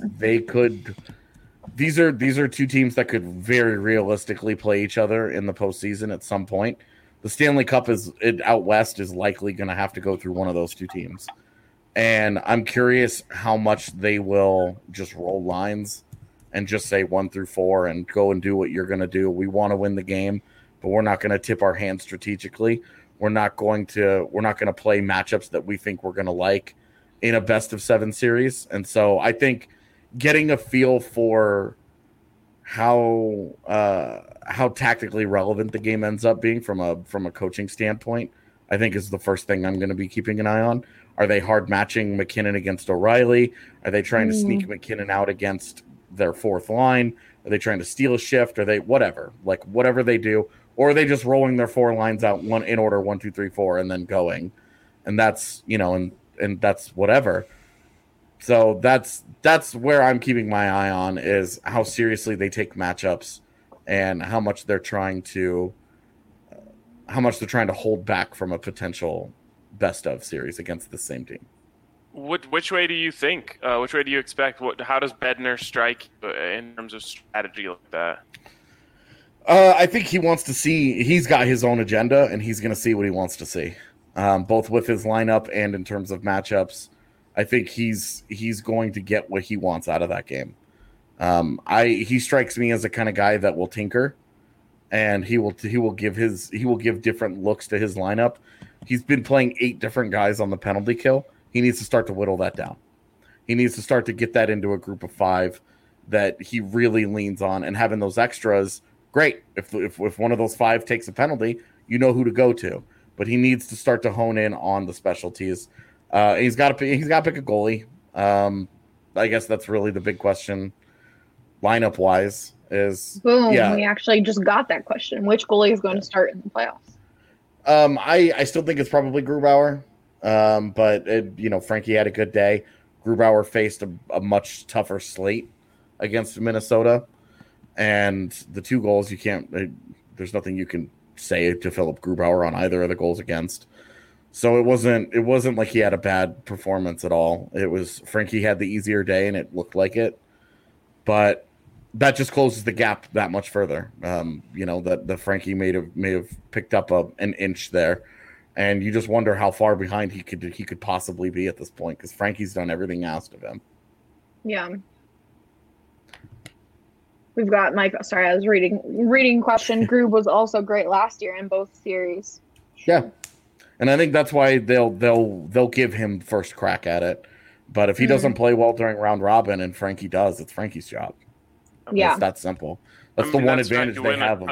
these are two teams that could very realistically play each other in the postseason at some point. The Stanley Cup out west is likely going to have to go through one of those two teams. And I'm curious how much they will just roll lines and just say 1 through 4 and go and do what you're going to do. We want to win the game, but we're not going to tip our hand strategically. We're not going to play matchups that we think we're going to like in a best of 7 series. And so I think getting a feel for how tactically relevant the game ends up being from a coaching standpoint, I think is the first thing I'm going to be keeping an eye on. Are they hard matching McKinnon against O'Reilly? Are they trying to sneak McKinnon out against their fourth line? Are they trying to steal a shift? Are they whatever they do? Or are they just rolling their 4 lines out in order 1, 2, 3, 4 and then going? And that's, and that's whatever. So that's where I'm keeping my eye on, is how seriously they take matchups and how much they're trying to hold back from a potential best of series against the same team. Which way do you think? Which way do you expect? How does Bednar strike in terms of strategy like that? I think he wants to see. He's got his own agenda, and he's going to see what he wants to see, both with his lineup and in terms of matchups. I think he's going to get what he wants out of that game. He strikes me as the kind of guy that will tinker, and he will give different looks to his lineup. He's been playing 8 different guys on the penalty kill. He needs to start to whittle that down. He needs to start to get that into a group of 5 that he really leans on, and having those extras. Great. If one of those 5 takes a penalty, you know who to go to. But he needs to start to hone in on the specialties. He's got to pick a goalie. I guess that's really the big question, lineup wise. We actually just got that question. Which goalie is going to start in the playoffs? I still think it's probably Grubauer. But Frankie had a good day. Grubauer faced a much tougher slate against Minnesota. And the 2 goals, there's nothing you can say to Philip Grubauer on either of the goals against. So it wasn't like he had a bad performance at all. It was Frankie had the easier day, and it looked like it. But that just closes the gap that much further. That Frankie may have picked up an inch there, and you just wonder how far behind he could possibly be at this point, because Frankie's done everything asked of him. Yeah. We've got Mike. Sorry, I was reading question. Grub was also great last year in both series. Yeah, and I think that's why they'll give him first crack at it. But if he doesn't play well during round robin and Frankie does, it's Frankie's job. It's that simple. That's the one advantage they have.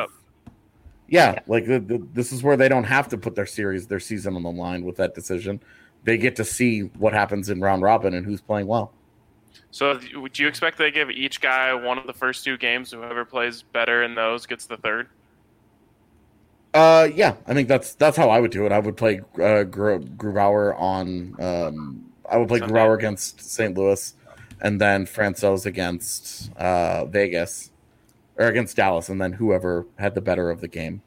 This is where they don't have to put their season on the line with that decision. They get to see what happens in round robin and who's playing well. So would you expect they give each guy one of the first 2 games? Whoever plays better in those gets the third? Yeah, I think that's how I would do it. I would play Grubauer on. I would play Grubauer against St. Louis, and then Francouz against Vegas, or against Dallas, and then whoever had the better of the game.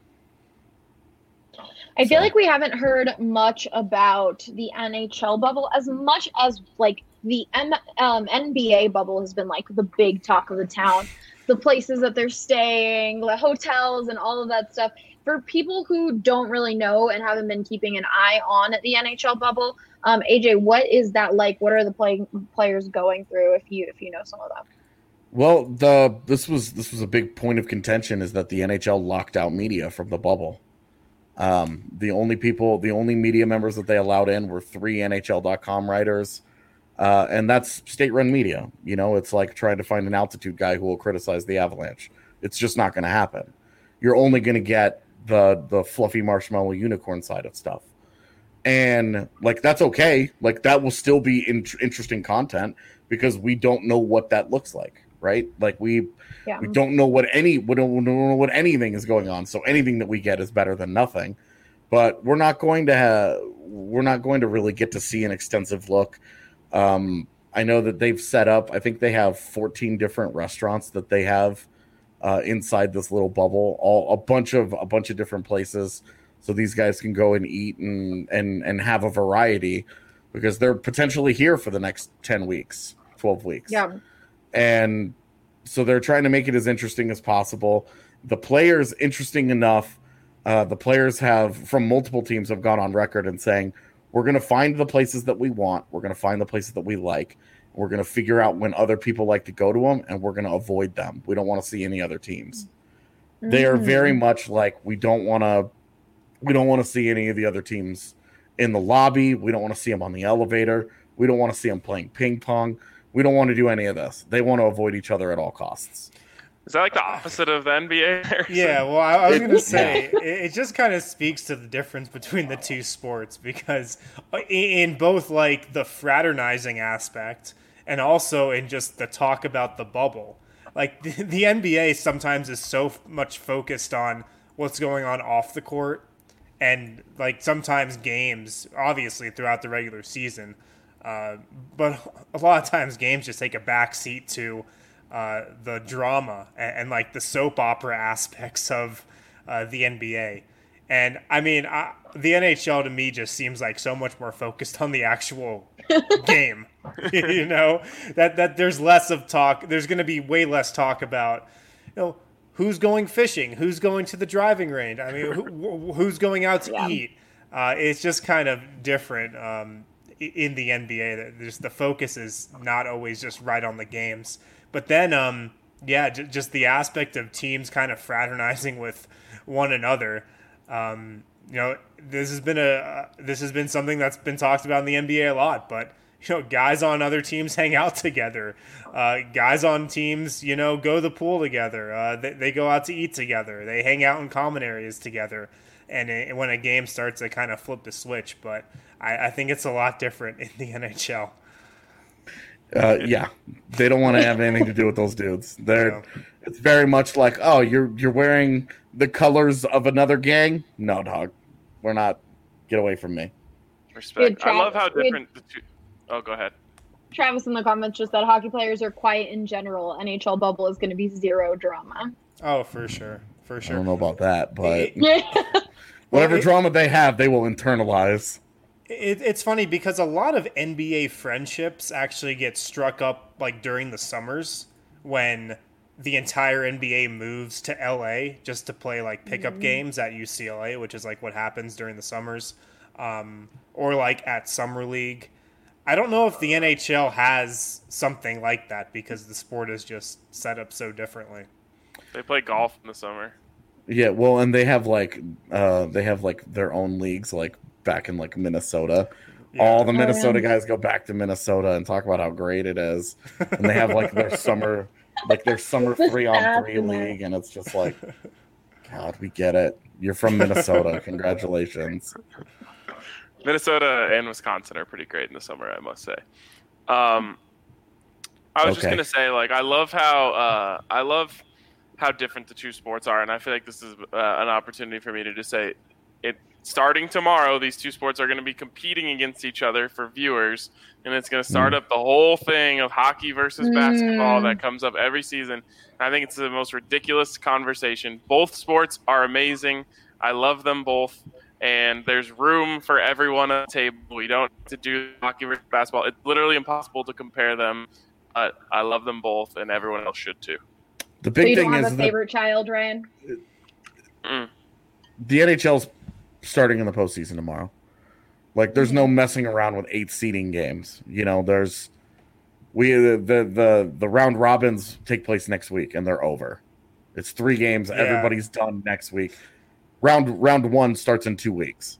I feel like we haven't heard much about the NHL bubble as much as the NBA bubble has been the big talk of the town. The places that they're staying, the hotels, and all of that stuff. For people who don't really know and haven't been keeping an eye on the NHL bubble, AJ, what is that like? What are the players going through? If you know some of them. Well, this was a big point of contention, is that the NHL locked out media from the bubble. The only media members that they allowed in were 3 NHL.com writers, and that's state-run media. It's like trying to find an altitude guy who will criticize the Avalanche. It's just not going to happen. You're only going to get the fluffy marshmallow unicorn side of stuff. And like that's okay. Like that will still be interesting content because we don't know what that looks like, right? Like we don't know what don't know what anything is going on. So anything that we get is better than nothing. But we're not going to really get to see an extensive look. I know that they've set up. I think they have 14 different restaurants that they have inside this little bubble. A bunch of different places. So these guys can go and eat and have a variety because they're potentially here for the next 10 weeks, 12 weeks. Yeah. And so they're trying to make it as interesting as possible. The players, interesting enough, the players from multiple teams have gone on record and saying, we're going to find the places that we want. We're going to find the places that we like. We're going to figure out when other people like to go to them, and we're going to avoid them. We don't want to see any other teams. Mm-hmm. They are very much like, we don't want to see any of the other teams in the lobby. We don't want to see them on the elevator. We don't want to see them playing ping pong. We don't want to do any of this. They want to avoid each other at all costs. Is that like the opposite of the NBA? Yeah, well, I was going to say, it just kind of speaks to the difference between the two sports because in both like the fraternizing aspect and also in just the talk about the bubble, like the NBA sometimes is so much focused on what's going on off the court. And like sometimes games, obviously throughout the regular season, but a lot of times games just take a back seat to the drama and like the soap opera aspects of the NBA. And I mean, the NHL to me just seems like so much more focused on the actual game. You know, that there's less of talk. There's going to be way less talk about, who's going fishing? Who's going to the driving range? I mean, who's going out to eat? It's just kind of different in the NBA. The focus is not always just right on the games. But then, just the aspect of teams kind of fraternizing with one another. This has been something that's been talked about in the NBA a lot. But guys on other teams hang out together. Guys on teams, go to the pool together. They go out to eat together. They hang out in common areas together. And when a game starts, they kind of flip the switch. But I think it's a lot different in the NHL. They don't want to have anything to do with those dudes. It's very much like, oh, you're wearing the colors of another gang. No, dog, we're not. Get away from me. Respect. I love how different the two. Oh, go ahead. Travis in the comments just said hockey players are quiet in general. NHL bubble is going to be zero drama. Oh, for sure. I don't know about that, but whatever drama they have, they will internalize. It's funny because a lot of NBA friendships actually get struck up like during the summers when the entire NBA moves to LA just to play like pickup games at UCLA, which is like what happens during the summers, or like at Summer League. I don't know if the NHL has something like that because the sport is just set up so differently. They play golf in the summer. Yeah, well, and they have like their own leagues, like back in like Minnesota. Yeah. All the Minnesota guys go back to Minnesota and talk about how great it is, and they have like their summer 3-on-3 league, and it's just like, God, we get it. You're from Minnesota. Congratulations. Minnesota and Wisconsin are pretty great in the summer, I must say. I was just gonna say, like, I love how different the two sports are, and I feel like this is an opportunity for me to just say, starting tomorrow, these two sports are going to be competing against each other for viewers, and it's going to start up the whole thing of hockey versus basketball that comes up every season. And I think it's the most ridiculous conversation. Both sports are amazing. I love them both. And there's room for everyone on the table. We don't have to do hockey versus basketball. It's literally impossible to compare them. I love them both, and everyone else should too. The big thing is, you don't have a favorite child, Ryan? The NHL's starting in the postseason tomorrow. Like, there's no messing around with 8 seeding games. The round robins take place next week, and they're over. It's 3 games. Yeah. Everybody's done next week. Round 1 starts in 2 weeks.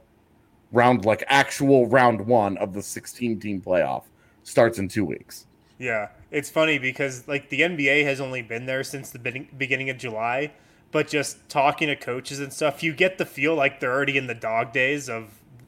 Actual round 1 of the 16-team playoff starts in 2 weeks. Yeah, it's funny because the NBA has only been there since the beginning of July, but just talking to coaches and stuff, you get the feel like they're already in the dog days of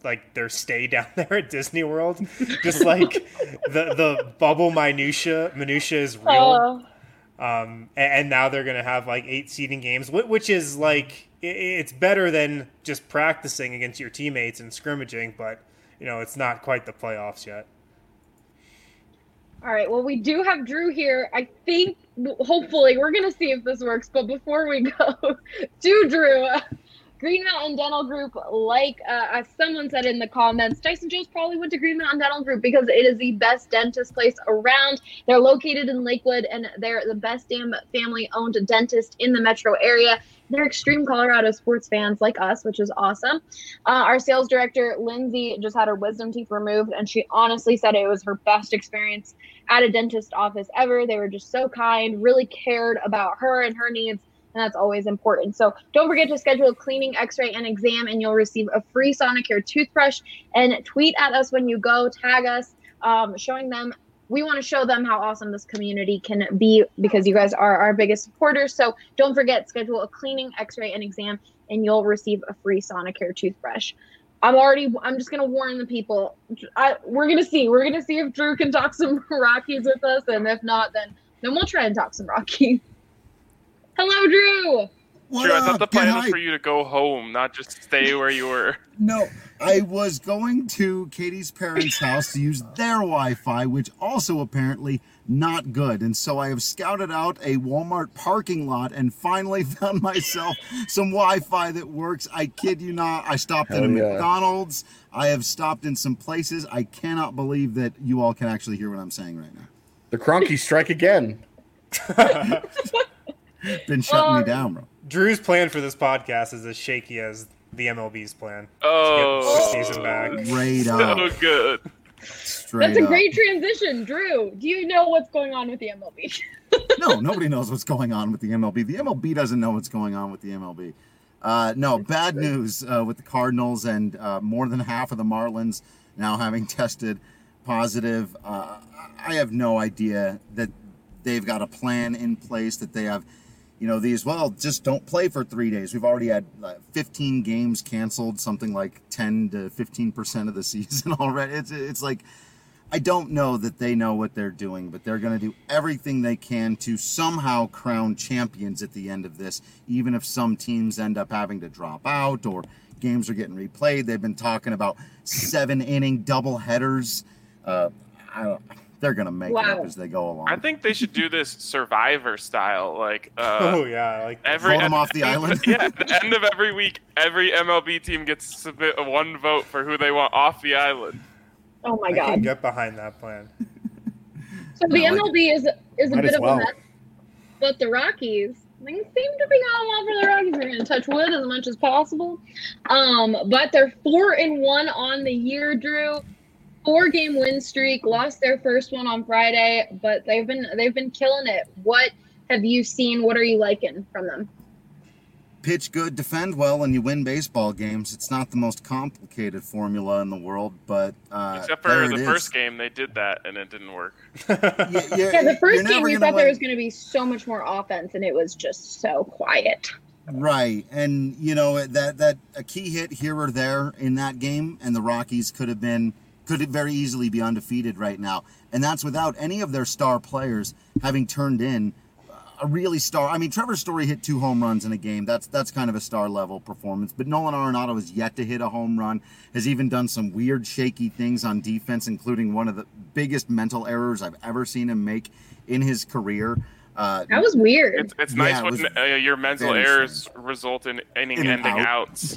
like their stay down there at Disney World. Just like the bubble minutia is real. And now they're gonna have like 8 seeding games, which is like it's better than just practicing against your teammates and scrimmaging, but it's not quite the playoffs yet. All right, well, we do have Drew here. I think, hopefully, we're going to see if this works. But before we go to Drew, Green Mountain Dental Group, like as someone said in the comments, Tyson Jones probably went to Green Mountain Dental Group because it is the best dentist place around. They're located in Lakewood, and they're the best damn family-owned dentist in the metro area. They're extreme Colorado sports fans like us, which is awesome. Our sales director, Lindsay, just had her wisdom teeth removed, and she honestly said it was her best experience at a dentist office ever. They were just so kind, really cared about her and her needs, and that's always important. So don't forget to schedule a cleaning, x-ray, and exam, and you'll receive a free Sonicare toothbrush. And tweet at us when you go, tag us, showing them. We want to show them how awesome this community can be because you guys are our biggest supporters. So don't forget, schedule a cleaning, x-ray, and exam, and you'll receive a free Sonicare toothbrush. I'm just going to warn the people. We're going to see. We're going to see if Drew can talk some Rockies with us. And if not, then we'll try and talk some Rockies. Hello, Drew. Drew, I thought the plan was for you to go home, not just stay where you were. No, I was going to Katie's parents' house to use their Wi-Fi, which also apparently not good. And so I have scouted out a Walmart parking lot and finally found myself some Wi-Fi that works. I kid you not. I stopped at a McDonald's. I have stopped in some places. I cannot believe that you all can actually hear what I'm saying right now. The Cronkies strike again. Been shutting me down, bro. Drew's plan for this podcast is as shaky as the MLB's plan. Oh, to get the season back. Straight up. So good. That's a great transition. Drew, do you know what's going on with the MLB? No, nobody knows what's going on with the MLB. The MLB doesn't know what's going on with the MLB. No, bad news with the Cardinals and more than half of the Marlins now having tested positive. I have no idea that they've got a plan in place, that they have, these, just don't play for 3 days. We've already had 15 games canceled, something like 10 to 15% of the season already. It's like, I don't know that they know what they're doing, but they're going to do everything they can to somehow crown champions at the end of this, even if some teams end up having to drop out or games are getting replayed. They've been talking about 7-inning double headers. They're going to make it up as they go along. I think they should do this Survivor style. Like, vote them off the island? Yeah, at the end of every week, every MLB team gets to submit one vote for who they want off the island. Oh, my God. I can get behind that plan. So the MLB is a bit of a mess, but the Rockies, things seem to be going well for the Rockies. We're going to touch wood as much as possible. But they're 4-1 on the year, Drew. 4-game win streak, lost their first one on Friday, but they've been killing it. What have you seen? What are you liking from them? Pitch good, defend well, and you win baseball games. It's not the most complicated formula in the world, but except for the first game, they did that, and it didn't work. The first game, you thought there was going to be so much more offense, and it was just so quiet. Right, and that a key hit here or there in that game, and the Rockies could very easily be undefeated right now. And that's without any of their star players having turned in a really star. I mean, Trevor Story hit 2 home runs in a game. That's kind of a star level performance. But Nolan Arenado has yet to hit a home run, has even done some weird, shaky things on defense, including one of the biggest mental errors I've ever seen him make in his career. That was weird. It's nice when your mental errors result in inning-ending outs.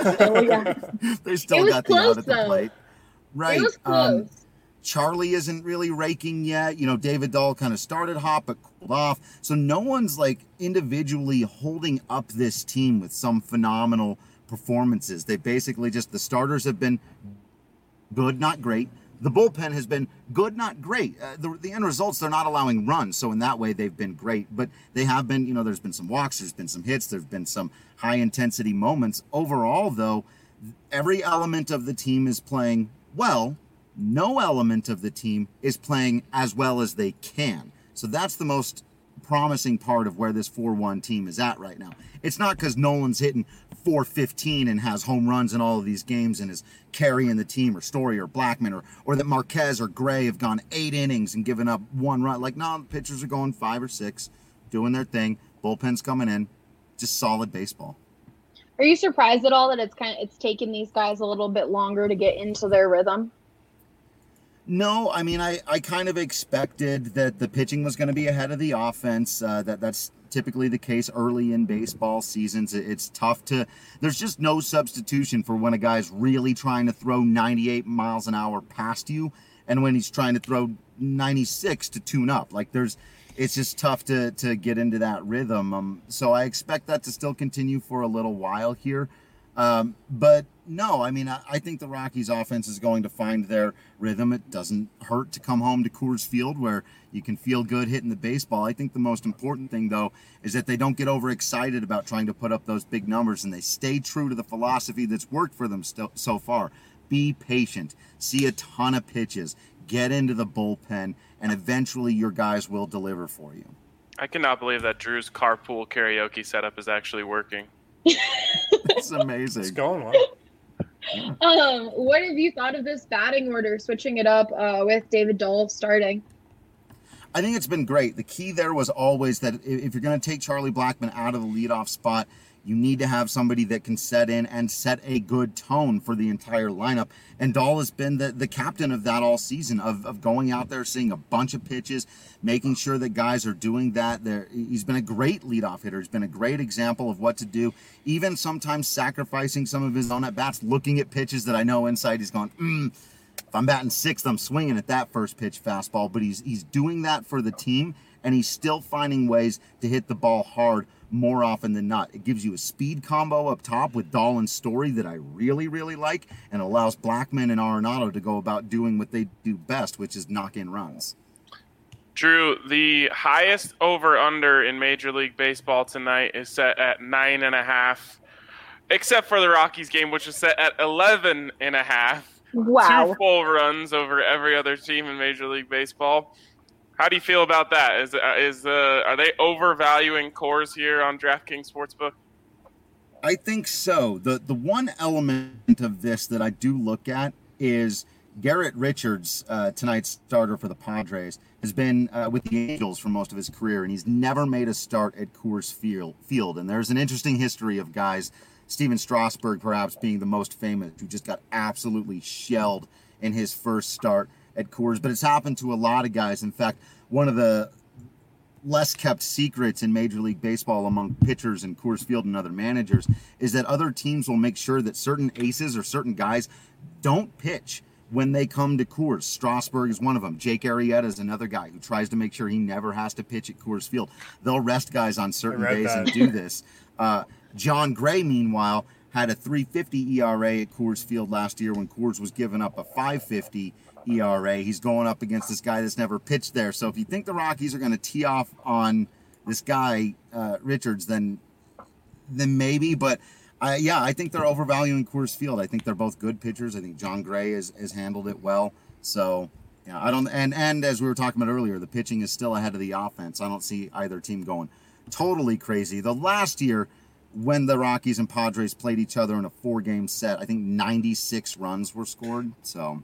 They still got the out at the plate. Right. It was close. Charlie isn't really raking yet. David Dahl kind of started hot but cooled off. So no one's individually holding up this team with some phenomenal performances. They basically the starters have been good, not great. The bullpen has been good, not great. The end results, they're not allowing runs. So in that way, they've been great. But they have been, there's been some walks, there's been some hits, there's been some high-intensity moments. Overall, though, every element of the team is playing well. No element of the team is playing as well as they can. So that's the most promising part of where this 4-1 team is at right now. It's not because Nolan's hitting 415 and has home runs in all of these games and is carrying the team, or Story or Blackman, or that Marquez or Gray have gone 8 innings and given up 1 run. Like, no, the pitchers are going 5 or 6, doing their thing. Bullpen's coming in. Just solid baseball. Are you surprised at all that it's taken these guys a little bit longer to get into their rhythm? No, I mean, I kind of expected that the pitching was going to be ahead of the offense. That's typically the case early in baseball seasons. It's tough there's just no substitution for when a guy's really trying to throw 98 miles an hour past you and when he's trying to throw 96 to tune up. Like, it's just tough to get into that rhythm. So I expect that to still continue for a little while here. But no, I mean, I think the Rockies offense is going to find their rhythm. It doesn't hurt to come home to Coors Field where you can feel good hitting the baseball. I think the most important thing, though, is that they don't get overexcited about trying to put up those big numbers, and they stay true to the philosophy that's worked for them so far. Be patient, see a ton of pitches, get into the bullpen, and eventually your guys will deliver for you. I cannot believe that Drew's carpool karaoke setup is actually working. It's amazing. It's going well. What have you thought of this batting order, switching it up with David Dahl starting? I think it's been great. The key there was always that if you're going to take Charlie Blackman out of the leadoff spot, you need to have somebody that can set in and set a good tone for the entire lineup. And Dahl has been the captain of that all season, of going out there, seeing a bunch of pitches, making sure that guys are doing that. He's been a great leadoff hitter. He's been a great example of what to do, even sometimes sacrificing some of his own at-bats, looking at pitches that I know inside he's going, if I'm batting 6th, I'm swinging at that first pitch fastball. But he's doing that for the team, and he's still finding ways to hit the ball hard more often than not. It gives you a speed combo up top with Dahl and Story that I really, really like, and allows Blackman and Arenado to go about doing what they do best, which is knock in runs. Drew, the highest over-under in Major League Baseball tonight is set at 9.5, except for the Rockies game, which is set at 11.5. Wow. 2 full runs over every other team in Major League Baseball. How do you feel about that? Are they overvaluing Coors here on DraftKings Sportsbook? I think so. The one element of this that I do look at is Garrett Richards, tonight's starter for the Padres, has been with the Angels for most of his career, and he's never made a start at Coors Field. And there's an interesting history of guys, Steven Strasburg perhaps being the most famous, who just got absolutely shelled in his first start at Coors, but it's happened to a lot of guys. In fact, one of the less kept secrets in Major League Baseball among pitchers and Coors Field and other managers is that other teams will make sure that certain aces or certain guys don't pitch when they come to Coors. Strasburg is one of them. Jake Arrieta is another guy who tries to make sure he never has to pitch at Coors Field. They'll rest guys on certain days and do this. John Gray, meanwhile, had a 3.50 ERA at Coors Field last year when Coors was giving up a 5.50 ERA. He's going up against this guy that's never pitched there. So if you think the Rockies are going to tee off on this guy, Richards, then maybe. But I think they're overvaluing Coors Field. I think they're both good pitchers. I think John Gray has handled it well. So I don't. And as we were talking about earlier, the pitching is still ahead of the offense. I don't see either team going totally crazy. The last year, when the Rockies and Padres played each other in a 4-game set, I think 96 runs were scored. So.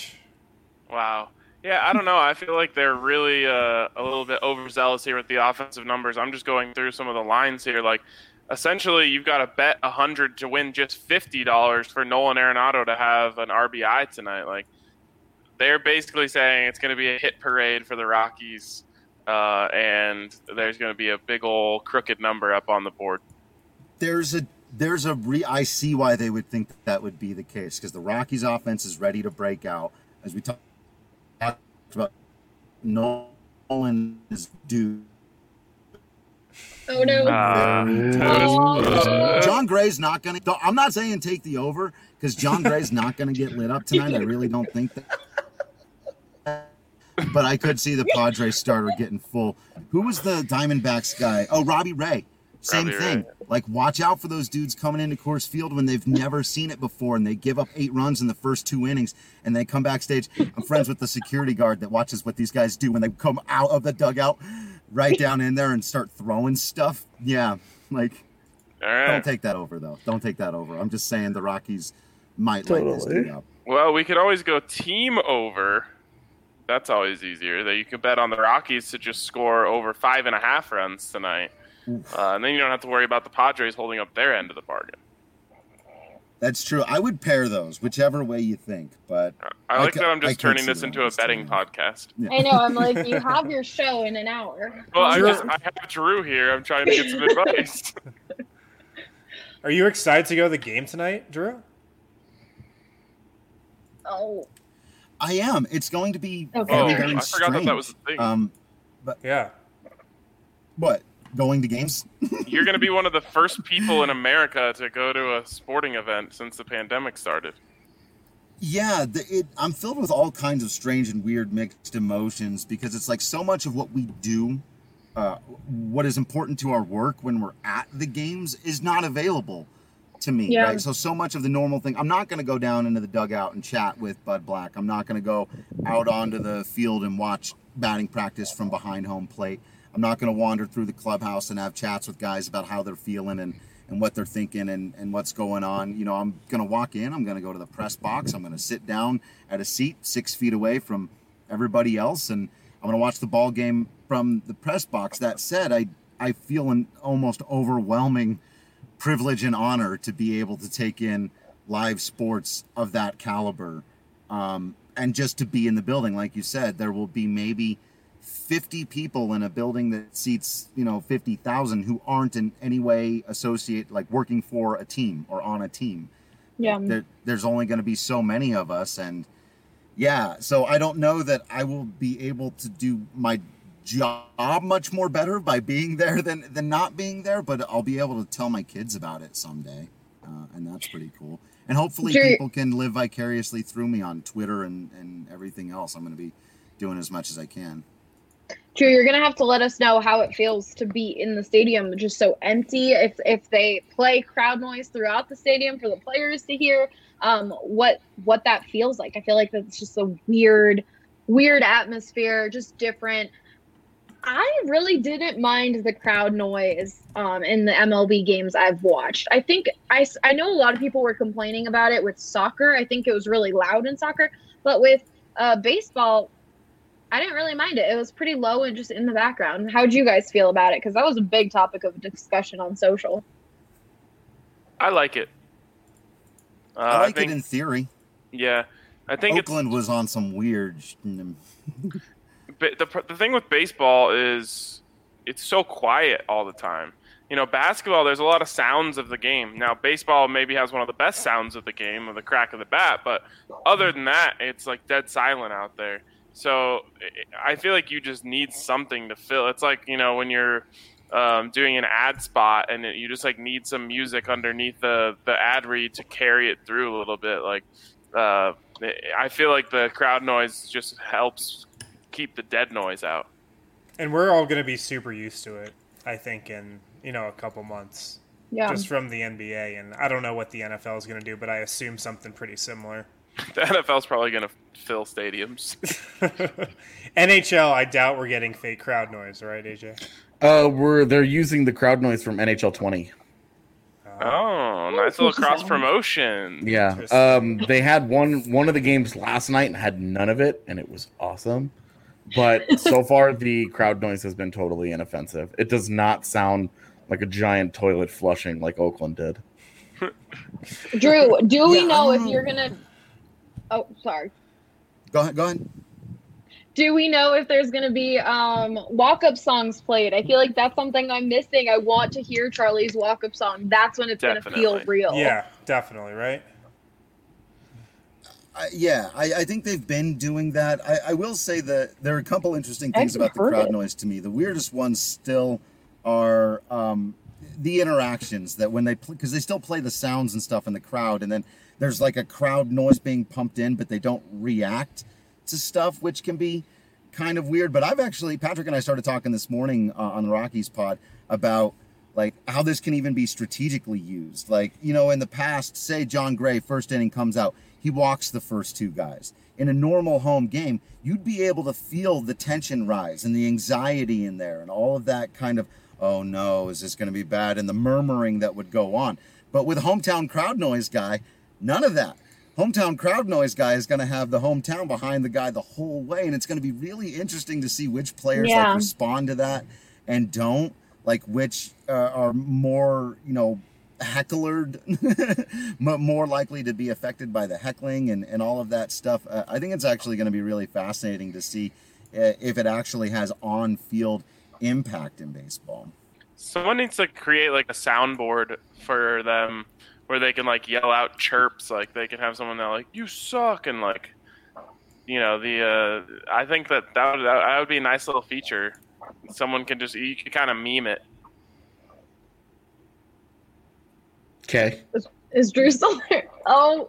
Wow. Yeah, I don't know. I feel like they're really a little bit overzealous here with the offensive numbers. I'm just going through some of the lines here. Like, essentially, you've got to bet $100 to win just $50 for Nolan Arenado to have an RBI tonight. Like, they're basically saying it's going to be a hit parade for the Rockies, and there's going to be a big old crooked number up on the board. I see why they would think that would be the case, because the Rockies offense is ready to break out. As we talked about, Nolan is due. Oh no! John Gray's not going to. I'm not saying take the over, because John Gray's not going to get lit up tonight. I really don't think that. But I could see the Padres starter getting full. Who was the Diamondbacks guy? Oh, Robbie Ray. Same thing. Like, watch out for those dudes coming into Coors Field when they've never seen it before, and they give up 8 runs in the first 2 innings, and they come backstage. I'm friends with the security guard that watches what these guys do when they come out of the dugout. right down in there and start throwing stuff. Yeah, like All right. don't take that over though. Don't take that over. I'm just saying the Rockies might light this Totally. thing up. Well, we could always go team over. That's always easier. That you could bet on the Rockies to just score over 5.5 runs tonight, and then you don't have to worry about the Padres holding up their end of the bargain. That's true. I would pair those, whichever way you think. But I like that I'm I just could turning see this that into a this betting time. podcast. I know. I'm like, you have your show in an hour. Well, I Sure. have Drew here. I'm trying to get some advice. Are you excited to go to the game tonight, Drew? Oh, I am. It's going to be Okay. Oh, very, very I forgot that was strange. the thing. Yeah. What? Going to games? You're going to be one of the first people in America to go to a sporting event since the pandemic started. Yeah, I'm filled with all kinds of strange and weird mixed emotions because it's like so much of what we do, what is important to our work when we're at the games is not available to me, Yeah. right? So much of the normal thing, I'm not going to go down into the dugout and chat with Bud Black. I'm not going to go out onto the field and watch batting practice from behind home plate. I'm not going to wander through the clubhouse and have chats with guys about how they're feeling and what they're thinking and what's going on. You know, I'm going to walk in, I'm going to go to the press box, I'm going to sit down at a seat 6 feet away from everybody else, and I'm going to watch the ball game from the press box. That said, I feel an almost overwhelming privilege and honor to be able to take in live sports of that caliber. And just to be in the building, like you said, there will be maybe 50 people in a building that seats, 50,000 who aren't in any way associated, like working for a team or on a team. yeah. There's only going to be so many of us. And yeah, so I don't know that I will be able to do my job much more better by being there than not being there, but I'll be able to tell my kids about it someday. And that's pretty cool. And hopefully people can live vicariously through me on Twitter and everything else. I'm going to be doing as much as I can. Drew, you're gonna have to let us know how it feels to be in the stadium just so empty. If they play crowd noise throughout the stadium for the players to hear, what that feels like. I feel like that's just a weird atmosphere, just different. I really didn't mind the crowd noise in the MLB games I've watched. I think I know a lot of people were complaining about it with soccer. I think it was really loud in soccer, but with baseball, I didn't really mind it. It was pretty low and just in the background. How'd you guys feel about it? Because that was a big topic of discussion on social. I like it. I like it in theory. Yeah, I think Oakland was on some weird. But the thing with baseball is it's so quiet all the time. Basketball, there's a lot of sounds of the game. Now, baseball maybe has one of the best sounds of the game, of the crack of the bat, but other than that, it's like dead silent out there. So I feel like you just need something to fill. It's like, when you're doing an ad spot and you just like need some music underneath the ad read to carry it through a little bit. Like I feel like the crowd noise just helps keep the dead noise out. And we're all going to be super used to it, I think, in, a couple months. Yeah. Just from the NBA. And I don't know what the NFL is going to do, but I assume something pretty similar. The NFL's probably going to fill stadiums. NHL, I doubt we're getting fake crowd noise, right, AJ? They're using the crowd noise from NHL 20. Oh, nice little cross promotion. Yeah. They had one of the games last night and had none of it, and it was awesome. But so far, the crowd noise has been totally inoffensive. It does not sound like a giant toilet flushing like Oakland did. Drew, do we know if you're going to... Oh, sorry. Go ahead. Do we know if there's going to be walk-up songs played? I feel like that's something I'm missing. I want to hear Charlie's walk-up song. That's when it's going to feel real. Yeah, definitely, right? I think they've been doing that. I will say that there are a couple interesting things about the crowd noise to me. The weirdest ones still are the interactions that when they play, because they still play the sounds and stuff in the crowd, and then there's like a crowd noise being pumped in, but they don't react to stuff, which can be kind of weird. But Patrick and I started talking this morning on the Rockies pod about like how this can even be strategically used. Like, you know, in the past, say John Gray, first inning comes out, he walks the first 2 guys. In a normal home game, you'd be able to feel the tension rise and the anxiety in there and all of that kind of, oh no, is this going to be bad? And the murmuring that would go on. But with hometown crowd noise guy, none of that. Hometown crowd noise guy is going to have the hometown behind the guy the whole way. And it's going to be really interesting to see which players like respond to that and don't, like which are more, you know, hecklered, more likely to be affected by the heckling and all of that stuff. I think it's actually going to be really fascinating to see if it actually has on-field impact in baseball. Someone needs to create like a soundboard for them where they can like yell out chirps. Like they can have someone that like, you suck, and like, you know, I think that would be a nice little feature. Someone can just, you can kind of meme it. Okay. Is Drew still there? Oh,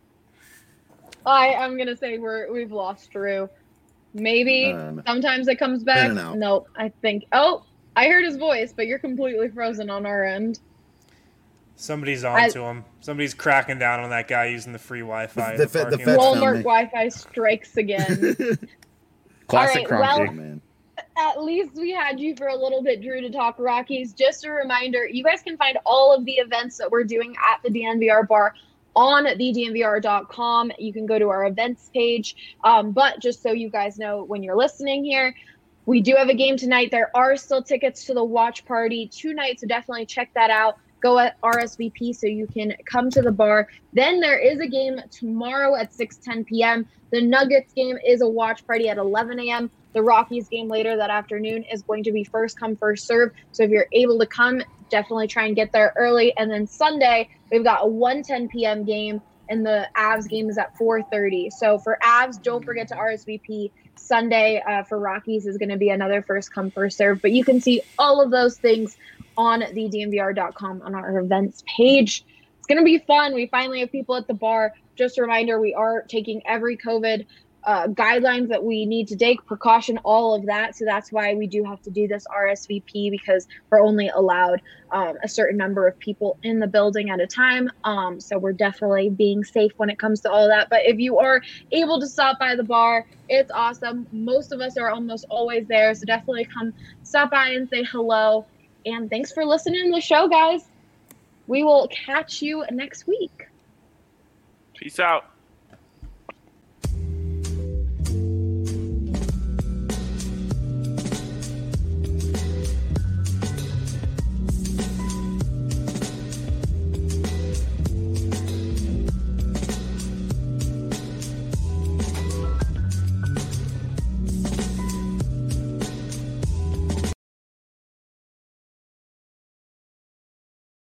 I'm gonna say we've lost Drew. Maybe sometimes it comes back. No, I think. Oh, I heard his voice, but you're completely frozen on our end. Somebody's on to him. Somebody's cracking down on that guy using the free Wi-Fi. The Walmart Wi-Fi strikes again. Classic All right, Cronky. Man. At least we had you for a little bit, Drew, to talk Rockies. Just a reminder, you guys can find all of the events that we're doing at the DNVR bar on thednvr.com. You can go to our events page. But just so you guys know, when you're listening here, we do have a game tonight. There are still tickets to the watch party tonight, so definitely check that out. Go at RSVP so you can come to the bar. Then there is a game tomorrow at 6:10 p.m. The Nuggets game is a watch party at 11 a.m. The Rockies game later that afternoon is going to be first come, first serve. So if you're able to come, definitely try and get there early. And then Sunday, we've got a 1:10 p.m. game, and the Avs game is at 4:30. So for Avs, don't forget to RSVP. Sunday for Rockies is going to be another first come, first serve. But you can see all of those things on thednvr.com on our events page. It's going to be fun. We finally have people at the bar. Just a reminder, we are taking every COVID guidelines that we need to take, precaution, all of that. So that's why we do have to do this RSVP, because we're only allowed a certain number of people in the building at a time. So we're definitely being safe when it comes to all of that. But if you are able to stop by the bar, it's awesome. Most of us are almost always there. So definitely come stop by and say hello. And thanks for listening to the show, guys. We will catch you next week. Peace out.